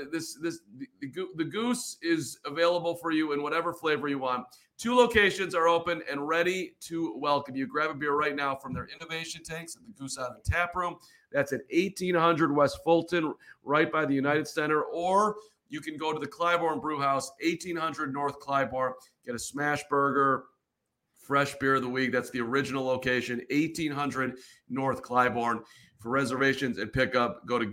The Goose is available for you in whatever flavor you want. 2 locations are open and ready to welcome you. Grab a beer right now from their innovation tanks at the Goose Island Tap Room. That's at 1800 West Fulton, right by the United Center. Or you can go to the Clybourne Brew House, 1800 North Clybourne. Get a smash burger, fresh beer of the week. That's the original location, 1800 North Clybourne. For reservations and pickup, go to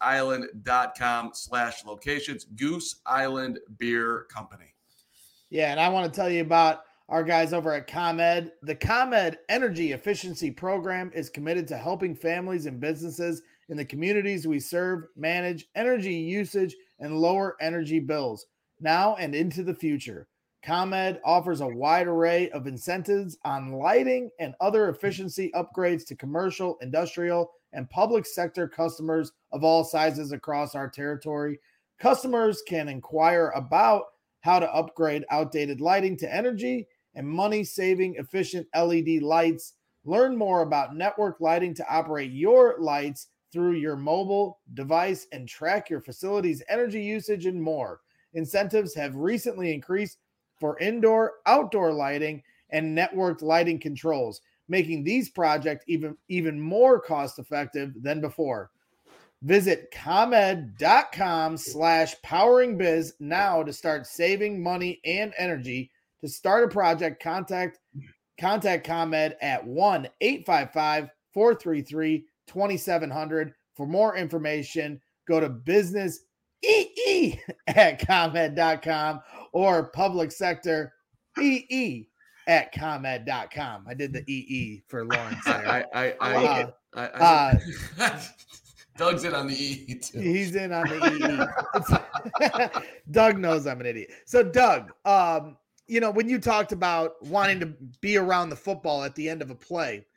gooseisland.com/locations. Goose Island Beer Company. Yeah, and I want to tell you about our guys over at ComEd. The ComEd Energy Efficiency Program is committed to helping families and businesses in the communities we serve manage energy usage and lower energy bills now and into the future. ComEd offers a wide array of incentives on lighting and other efficiency upgrades to commercial, industrial, and public sector customers of all sizes across our territory. Customers can inquire about how to upgrade outdated lighting to energy and money-saving efficient LED lights. Learn more about network lighting to operate your lights through your mobile device and track your facility's energy usage and more. Incentives have recently increased for indoor, outdoor lighting and networked lighting controls, making these projects even more cost-effective than before. Visit ComEd.com/poweringbiz now to start saving money and energy. To start a project, contact ComEd at 1-855-433-2700. For more information, go to businessee@comed.com or public sector ee@comed.com. I did the EE for Lawrence there. I Doug's in on the E too. He's in on the EE. Doug knows I'm an idiot. So Doug, when you talked about wanting to be around the football at the end of a play,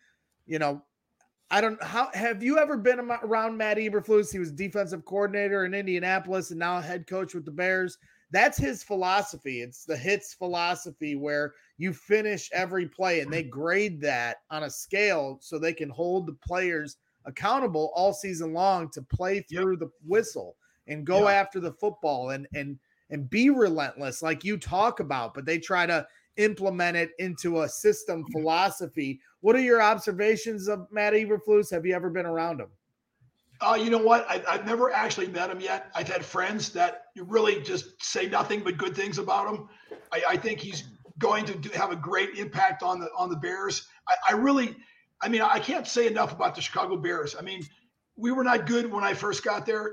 have you ever been around Matt Eberflus? He was defensive coordinator in Indianapolis and now head coach with the Bears. That's his philosophy. It's the HITS philosophy where you finish every play and they grade that on a scale so they can hold the players accountable all season long to play through the whistle and go after the football and be relentless like you talk about, but they try to implement it into a system philosophy. What are your observations of Matt Eberflus? Have you ever been around him? You know what? I've never actually met him yet. I've had friends that really just say nothing but good things about him. I think he's going to have a great impact on the Bears. I can't say enough about the Chicago Bears. I mean, we were not good when I first got there.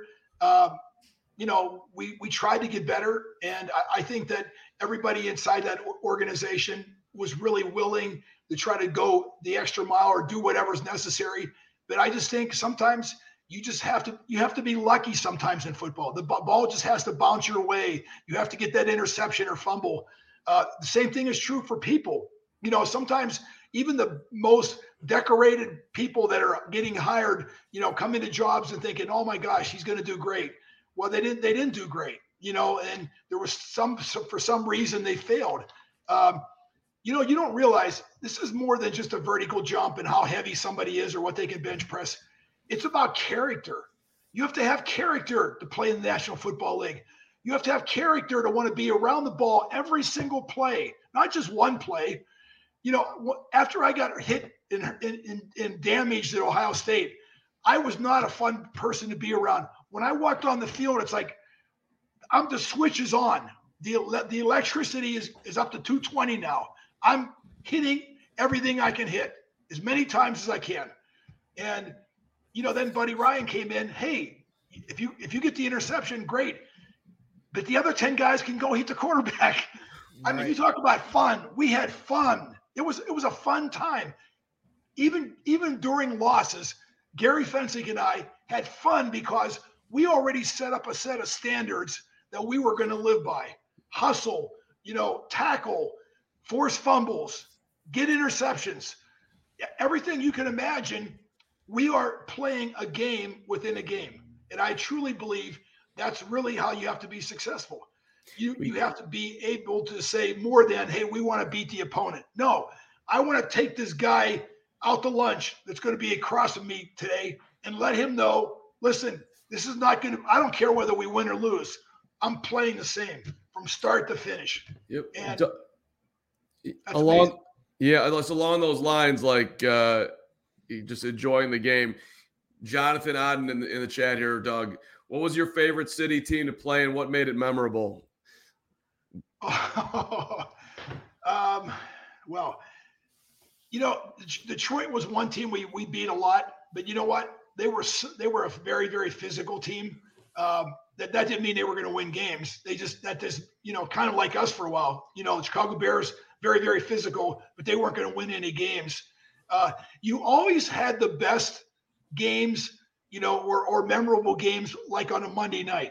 We tried to get better, and I think that everybody inside that organization was really willing to try to go the extra mile or do whatever's necessary. But I just think sometimes you have to be lucky sometimes in football. The ball just has to bounce your way. You have to get that interception or fumble. The same thing is true for people. Sometimes even the most decorated people that are getting hired, come into jobs and thinking, oh my gosh, he's going to do great. Well, they didn't do great, and there was for some reason they failed. You don't realize this is more than just a vertical jump and how heavy somebody is or what they can bench press. It's about character. You have to have character to play in the National Football League. You have to have character to want to be around the ball every single play, not just one play. After I got hit and damaged at Ohio State, I was not a fun person to be around. When I walked on the field, it's like the switch is on. The electricity is up to 220 now. I'm hitting everything I can hit as many times as I can. And then Buddy Ryan came in. Hey, if you get the interception, great. But the other 10 guys can go hit the quarterback. I mean, you talk about fun. We had fun. It was a fun time. Even during losses, Gary Fencing and I had fun because we already set up a set of standards that we were going to live by. Hustle, tackle, force fumbles, get interceptions, everything you can imagine. We are playing a game within a game. And I truly believe that's really how you have to be successful. You have to be able to say more than, hey, we want to beat the opponent. No, I want to take this guy out to lunch that's going to be across from me today and let him know, listen, this is not going to, I don't care whether we win or lose. I'm playing the same from start to finish. Yep. And it's along those lines, like just enjoying the game. Jonathan Odden in the chat here, Doug, what was your favorite city team to play and what made it memorable? Well, Detroit was one team we beat a lot, but you know what? They were a very, very physical team. That didn't mean they were going to win games. They just kind of like us for a while. The Chicago Bears, very, very physical, but they weren't going to win any games. You always had the best games, or memorable games like on a Monday night.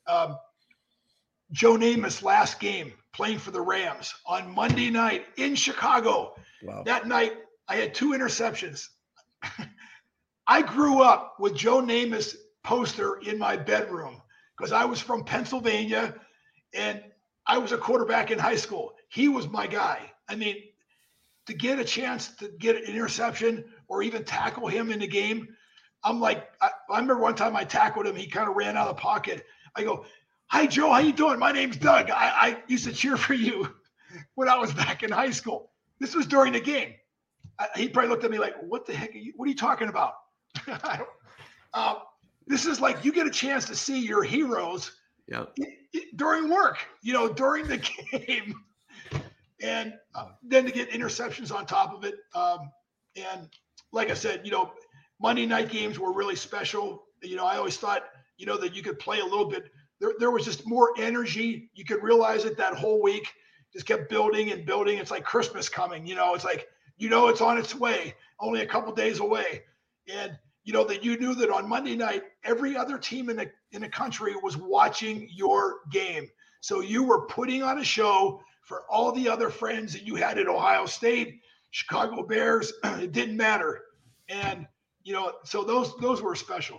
Joe Namath's last game playing for the Rams on Monday night in Chicago. Wow. That night, I had 2 interceptions. I grew up with Joe Namath's poster in my bedroom because I was from Pennsylvania and I was a quarterback in high school. He was my guy. I mean, to get a chance to get an interception or even tackle him in the game, I'm like, I remember one time I tackled him. He kind of ran out of the pocket. I go, hi, Joe, how you doing? My name's Doug. I used to cheer for you when I was back in high school. This was during the game. He probably looked at me like, what the heck what are you talking about? This is like you get a chance to see your heroes during work, during the game. And then to get interceptions on top of it. And like I said, Monday night games were really special. I always thought, that you could play a little bit. There was just more energy. You could realize it that whole week. Just kept building and building. It's like Christmas coming. It's like, it's on its way, only a couple days away. And, that you knew that on Monday night, every other team in the country was watching your game. So you were putting on a show for all the other friends that you had at Ohio State, Chicago Bears. It didn't matter. And, so those were special.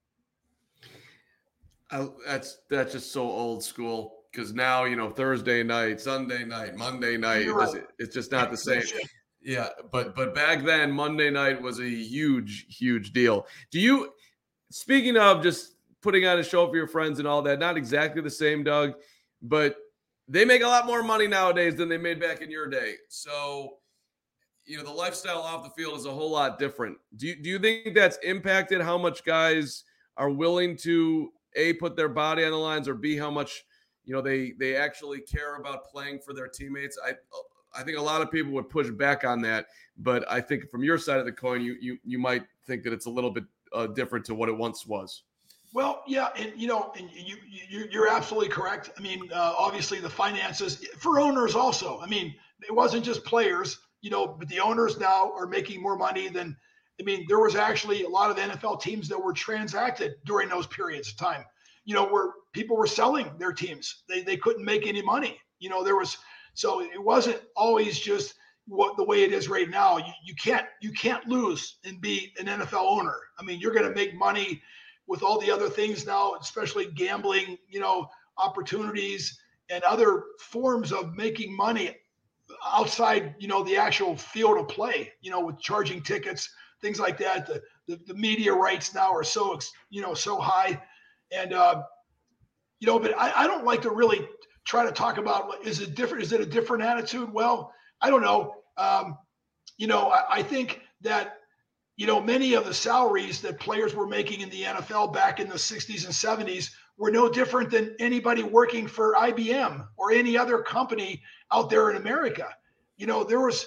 That's just so old school because now, Thursday night, Sunday night, Monday night, it's just not the same. Yeah. But back then, Monday night was a huge, huge deal. Speaking of just putting on a show for your friends and all that, not exactly the same, Doug, but they make a lot more money nowadays than they made back in your day. So, the lifestyle off the field is a whole lot different. Do you think that's impacted how much guys are willing to put their body on the lines, or B, how much they actually care about playing for their teammates. I think a lot of people would push back on that, but I think from your side of the coin, you might think that it's a little bit different to what it once was. Well, yeah, and you're absolutely correct. I mean, obviously the finances for owners also. I mean, it wasn't just players, but the owners now are making more money than. I mean, there was actually a lot of NFL teams that were transacted during those periods of time. Where people were selling their teams, they couldn't make any money. So it wasn't always just the way it is right now. You can't lose and be an NFL owner. I mean, you're going to make money with all the other things now, especially gambling, opportunities and other forms of making money outside, the actual field of play, with charging tickets, things like that. The media rights now are so high. And, but I don't like to really try to talk about, is it a different attitude? Well, I don't know. I think that, many of the salaries that players were making in the NFL back in the 60s and 70s were no different than anybody working for IBM or any other company out there in America. There was,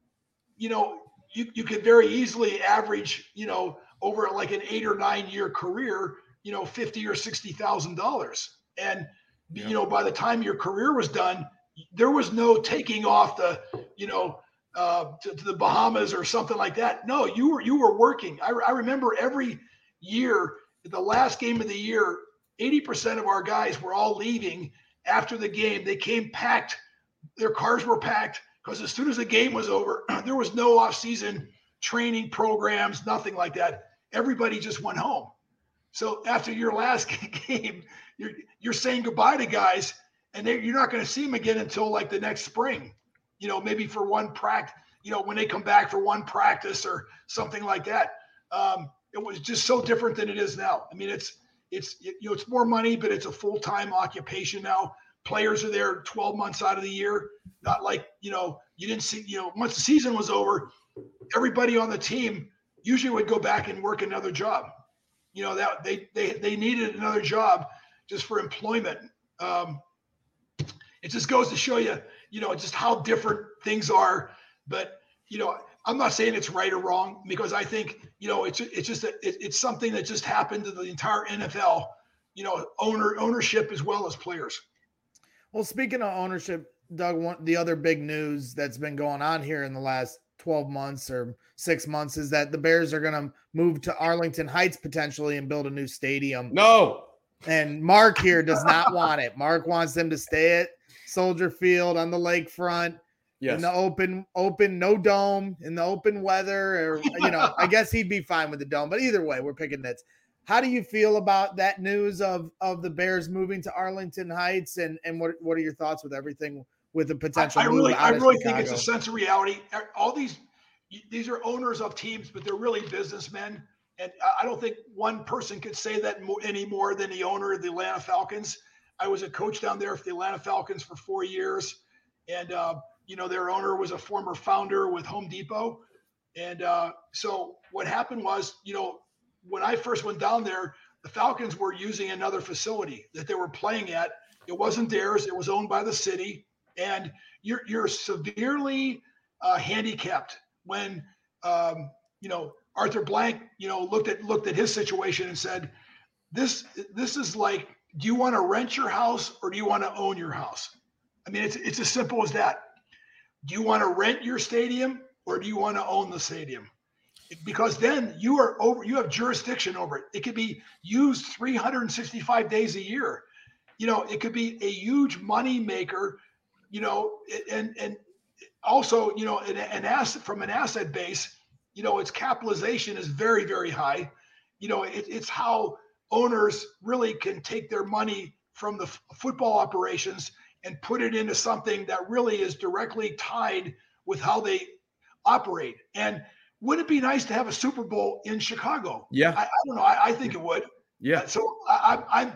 you could very easily average, over like an 8 or 9 year career, $50,000 or $60,000. And, by the time your career was done, there was no taking off the, to the Bahamas or something like that. No, you were working. I remember every year, the last game of the year, 80% of our guys were all leaving after the game. They came packed. Their cars were packed because as soon as the game was over, there was no off-season training programs, nothing like that. Everybody just went home. So after your last game, you're saying goodbye to guys, and you're not going to see them again until like the next spring. Maybe for one practice, when they come back for one practice or something like that. It was just so different than it is now. I mean, it's more money, but it's a full-time occupation now. Players are there 12 months out of the year. Not like, you didn't see, once the season was over, everybody on the team usually would go back and work another job. That they needed another job just for employment. It just goes to show you, just how different things are. But, I'm not saying it's right or wrong, because I think, it's something that just happened to the entire NFL, ownership as well as players. Well, speaking of ownership, Doug, the other big news that's been going on here in the last 12 months or 6 months is that the Bears are going to move to Arlington Heights potentially and build a new stadium. No. And Mark here does not want it. Mark wants them to stay at Soldier Field on the lakefront. Yes. In the open, no dome, in the open weather, or, I guess he'd be fine with the dome, but either way, we're picking nits. How do you feel about that news of the Bears moving to Arlington Heights, and what are your thoughts with everything with the potential? I really think it's a sense of reality. All these are owners of teams, but they're really businessmen. And I don't think one person could say that any more than the owner of the Atlanta Falcons. I was a coach down there for the Atlanta Falcons for 4 years. And, their owner was a former founder with Home Depot. And so what happened was, when I first went down there, the Falcons were using another facility that they were playing at. It wasn't theirs. It was owned by the city. And you're severely handicapped when, Arthur Blank, looked at his situation and said, this is like, do you want to rent your house or do you want to own your house? I mean, it's as simple as that. Do you want to rent your stadium or do you want to own the stadium? Because then you have jurisdiction over it. It could be used 365 days a year. It could be a huge money maker, and also, an asset from an asset base, its capitalization is very, very high. It's how owners really can take their money from the football operations and put it into something that really is directly tied with how they operate. And wouldn't it be nice to have a Super Bowl in Chicago? Yeah. I don't know. I think it would. Yeah. So I'm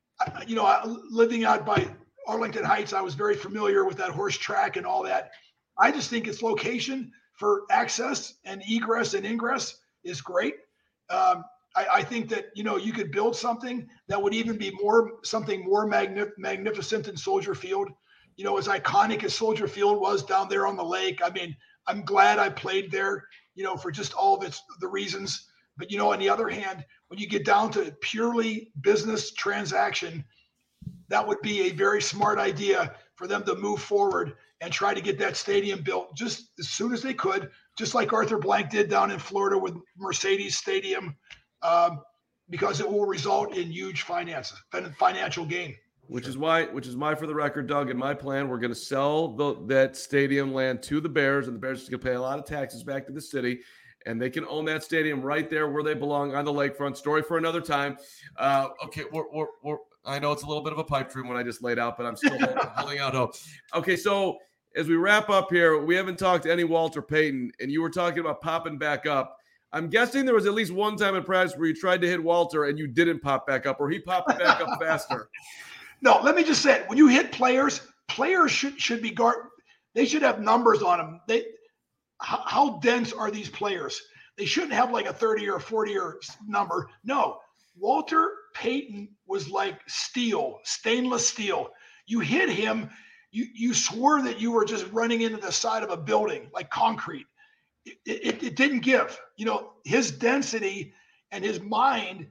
living out by Arlington Heights, I was very familiar with that horse track and all that. I just think its location for access and egress and ingress is great. I think that, you could build something that would even be something more magnificent than Soldier Field. As iconic as Soldier Field was down there on the lake. I mean, I'm glad I played there, for just all of the reasons. But, on the other hand, when you get down to purely business transaction, that would be a very smart idea for them to move forward and try to get that stadium built just as soon as they could, just like Arthur Blank did down in Florida with Mercedes Stadium, because it will result in huge financial gain. Which is why, for the record, Doug, in my plan, we're going to sell that stadium land to the Bears, and the Bears are going to pay a lot of taxes back to the city, and they can own that stadium right there where they belong on the lakefront. Story for another time. Okay, I know it's a little bit of a pipe dream when I just laid out, but I'm still holding out hope. Okay, so as we wrap up here, we haven't talked to any Walter Payton, and you were talking about popping back up. I'm guessing there was at least one time in practice where you tried to hit Walter and you didn't pop back up, or he popped back up faster. No, let me just say, when you hit players should be guard. They should have numbers on them. How dense are these players? They shouldn't have like a 30 or 40 or number. No, Walter Payton was like steel, stainless steel. You hit him, you swore that you were just running into the side of a building like concrete. It didn't give. His density and his mind.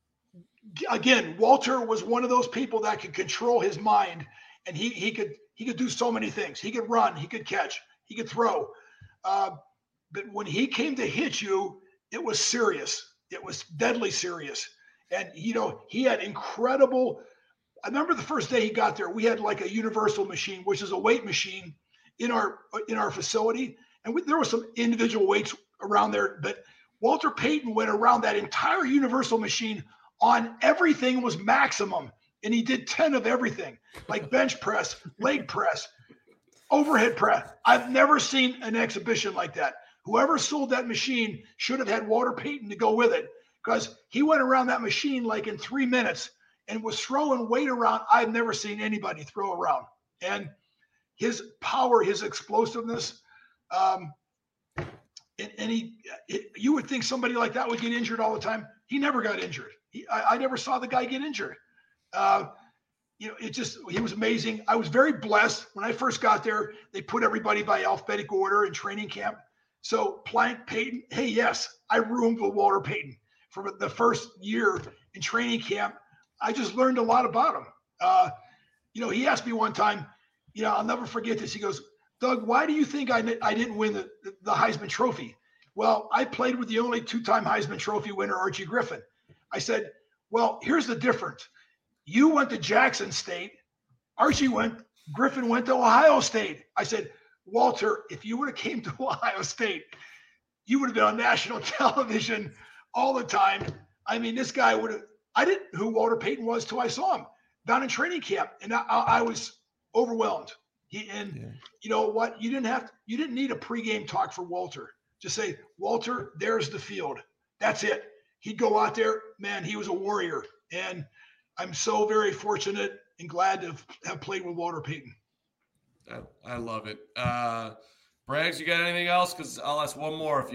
Again, Walter was one of those people that could control his mind, and he could do so many things. He could run, he could catch, he could throw. But when he came to hit you, it was serious. It was deadly serious. And he had incredible. I remember the first day he got there, we had like a universal machine, which is a weight machine in our facility, and there were some individual weights around there. But Walter Payton went around that entire universal machine. On everything was maximum, and he did 10 of everything, like bench press, leg press, overhead press. I've never seen an exhibition like that. Whoever sold that machine should have had Walter Payton to go with it, because he went around that machine like in 3 minutes and was throwing weight around I've never seen anybody throw around. And his power, his explosiveness, you would think somebody like that would get injured all the time. He never got injured. I never saw the guy get injured. He was amazing. I was very blessed when I first got there. They put everybody by alphabetical order in training camp. So Plank, Payton, hey, yes, I roomed with Walter Payton for the first year in training camp. I just learned a lot about him. He asked me one time, I'll never forget this. He goes, Doug, why do you think I didn't win the Heisman Trophy? Well, I played with the only two-time Heisman Trophy winner, Archie Griffin. I said, well, here's the difference. You went to Jackson State. Griffin went to Ohio State. I said, Walter, if you would have came to Ohio State, you would have been on national television all the time. I mean, this guy I didn't know who Walter Payton was till I saw him down in training camp. And I was overwhelmed. You know what? You didn't need a pregame talk for Walter. Just say, Walter, there's the field. That's it. He'd go out there, man, he was a warrior. And I'm so very fortunate and glad to have played with Walter Payton. I love it. Braggs, you got anything else? Because I'll ask one more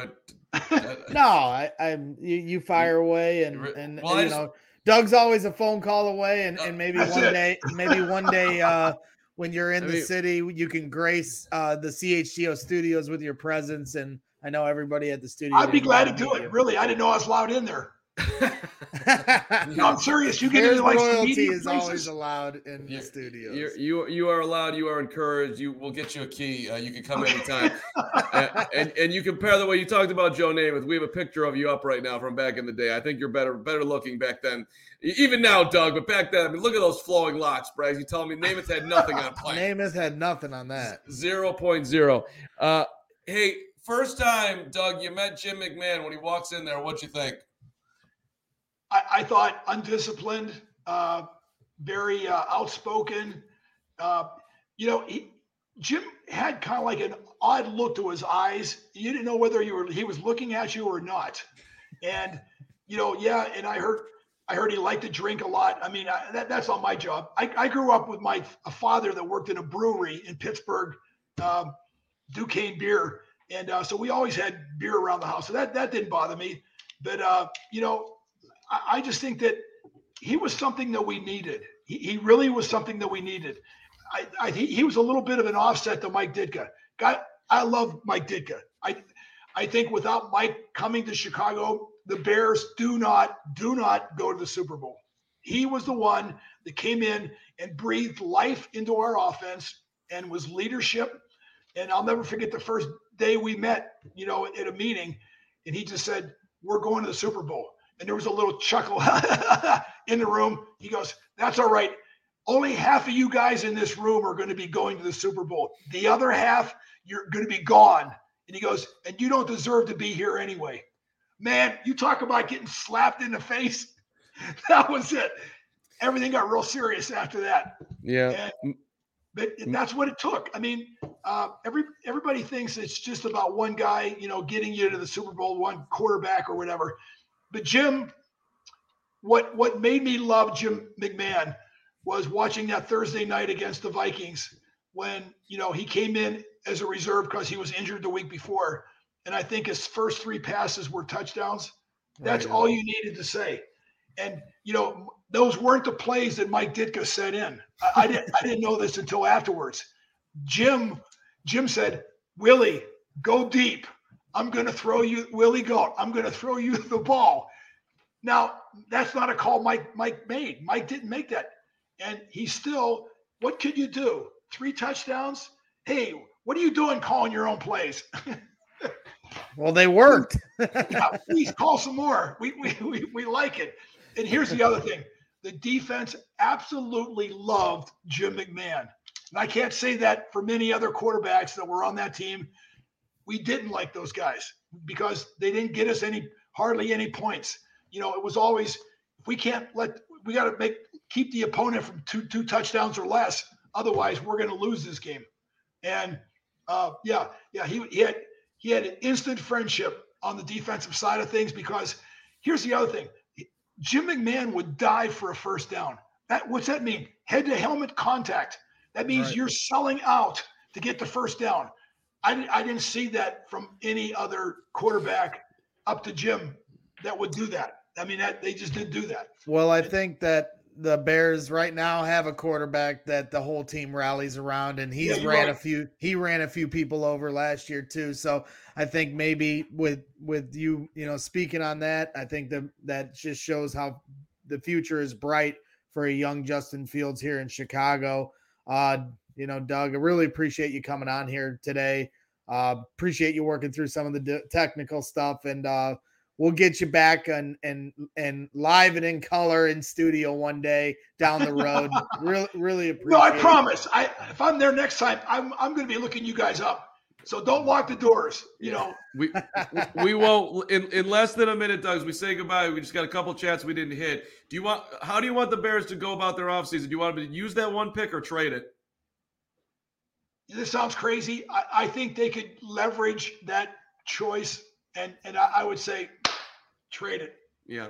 No, you fire away, and Doug's always a phone call away, and maybe one day when you're in the city, you can grace the CHGO studios with your presence. And I know everybody at the studio. I'd be glad to do it. Really, I didn't know I was allowed in there. No, I'm serious. You get into like royalty is always allowed in the studios. You are allowed. You are encouraged. We'll get you a key. You can come anytime. and you compare the way you talked about Joe Namath. We have a picture of you up right now from back in the day. I think you're better looking back then. Even now, Doug, but back then, I mean, look at those flowing locks, Braggs. You telling me Namath had nothing on Plank? Namath had nothing on that. 0.0. Hey, first time, Doug, you met Jim McMahon when he walks in there. What'd you think? I thought undisciplined, very outspoken. Jim had kind of like an odd look to his eyes. You didn't know whether he was looking at you or not. And and I heard he liked to drink a lot. I mean, that's not my job. I grew up with a father that worked in a brewery in Pittsburgh, Duquesne Beer, and so we always had beer around the house. So that didn't bother me. But I just think that he was something that we needed. He really was something that we needed. He was a little bit of an offset to Mike Ditka. I love Mike Ditka. I think without Mike coming to Chicago, the Bears do not go to the Super Bowl. He was the one that came in and breathed life into our offense and was leadership. And I'll never forget the first day we met, at a meeting, and he just said, "We're going to the Super Bowl." And there was a little chuckle in the room. He goes, "That's all right. Only half of you guys in this room are going to be going to the Super Bowl. The other half, you're going to be gone." And he goes, "And you don't deserve to be here anyway." Man, you talk about getting slapped in the face. That was it. Everything got real serious after that. Yeah. But that's what it took. I mean, everybody thinks it's just about one guy, getting you to the Super Bowl, one quarterback or whatever. But Jim, what made me love Jim McMahon was watching that Thursday night against the Vikings when, he came in as a reserve because he was injured the week before. And I think his first 3 passes were touchdowns. That's all you needed to say. And, those weren't the plays that Mike Ditka set in. I didn't know this until afterwards. Jim said, "Willie, go deep. I'm going to throw you, Willie, go. I'm going to throw you the ball." Now, that's not a call Mike made. Mike didn't make that. And he still, what could you do? 3 touchdowns? Hey, what are you doing calling your own plays? Well, they worked. Yeah, please call some more. We like it. And here's the other thing. The defense absolutely loved Jim McMahon. And I can't say that for many other quarterbacks that were on that team. We didn't like those guys because they didn't get us hardly any points. It was always, we got to keep the opponent from two touchdowns or less. Otherwise, we're going to lose this game. And he had an instant friendship on the defensive side of things because here's the other thing. Jim McMahon would die for a first down. What's that mean? Head to helmet contact. That means You're selling out to get the first down. I didn't see that from any other quarterback up to Jim that would do that. I mean, they just didn't do that. Well, I think that the Bears right now have a quarterback that the whole team rallies around, and he ran a few people over last year too. So I think maybe with you, speaking on that, I think that just shows how the future is bright for a young Justin Fields here in Chicago. Doug, I really appreciate you coming on here today. Appreciate you working through some of the technical stuff, and we'll get you back and live and in color in studio one day down the road. really appreciate. No, I promise. If I'm there next time, I'm going to be looking you guys up. So don't lock the doors. We won't in less than a minute, Doug. As we say goodbye, we just got a couple chats we didn't hit. How do you want the Bears to go about their offseason? Do you want them to use that one pick or trade it? This sounds crazy. I think they could leverage that choice, and I would say trade it. Yeah.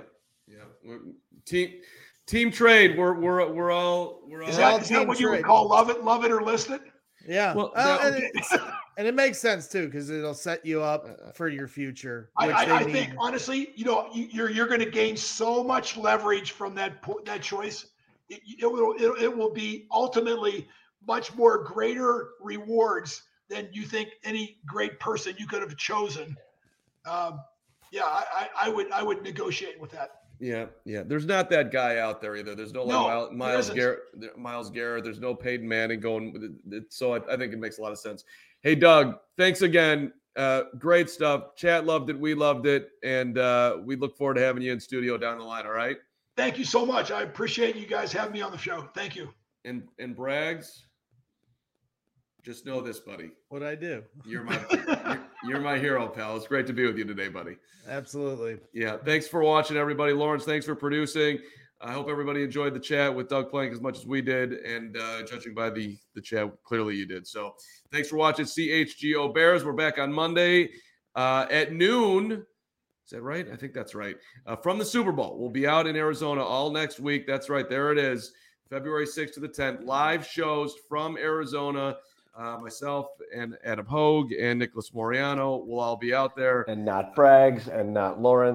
Team trade. We're all. Is that what you would call love it or list it? Yeah. Well, and it makes sense too because it'll set you up for your future. I think honestly, you're going to gain so much leverage from that choice. It will be ultimately much more greater rewards than you think any great person you could have chosen. I would negotiate with that. Yeah. There's not that guy out there either. There's no Myles Garrett. There's no Peyton Manning going with it. So I think it makes a lot of sense. Hey, Doug, thanks again. Great stuff. Chat loved it. We loved it. And we look forward to having you in studio down the line. All right. Thank you so much. I appreciate you guys having me on the show. Thank you. And Braggs, just know this, buddy. What'd I do? You're my hero, pal. It's great to be with you today, buddy. Absolutely. Yeah. Thanks for watching, everybody. Lawrence, thanks for producing. I hope everybody enjoyed the chat with Doug Plank as much as we did. And judging by the chat, clearly you did. So thanks for watching CHGO Bears. We're back on Monday at noon. Is that right? I think that's right. From the Super Bowl. We'll be out in Arizona all next week. That's right. There it is. February 6th to the 10th. Live shows from Arizona. Myself and Adam Hogue and Nicholas Moriano will all be out there. And not Braggs and not Lawrence.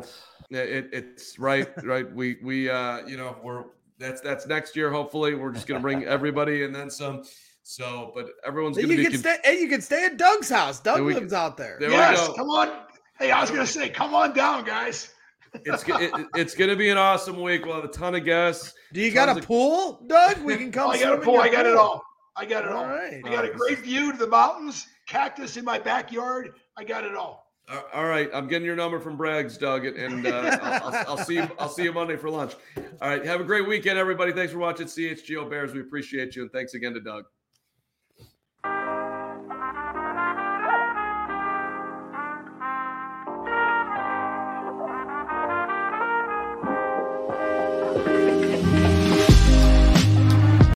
It's right. We that's next year. Hopefully, we're just going to bring everybody and then some. So, but everyone's going to be. You can stay at Doug's house. Doug lives out there. Yes, come on. Hey, I was going to say, come on down, guys. It's going to be an awesome week. We'll have a ton of guests. Do you got a pool, Doug? We can come. I got a pool. I got it all. I got it all. Right. I got a great view to the mountains, cactus in my backyard. I got it all. All right, I'm getting your number from Braggs, Doug, and I'll see you. I'll see you Monday for lunch. All right, have a great weekend, everybody. Thanks for watching CHGO Bears. We appreciate you, and thanks again to Doug.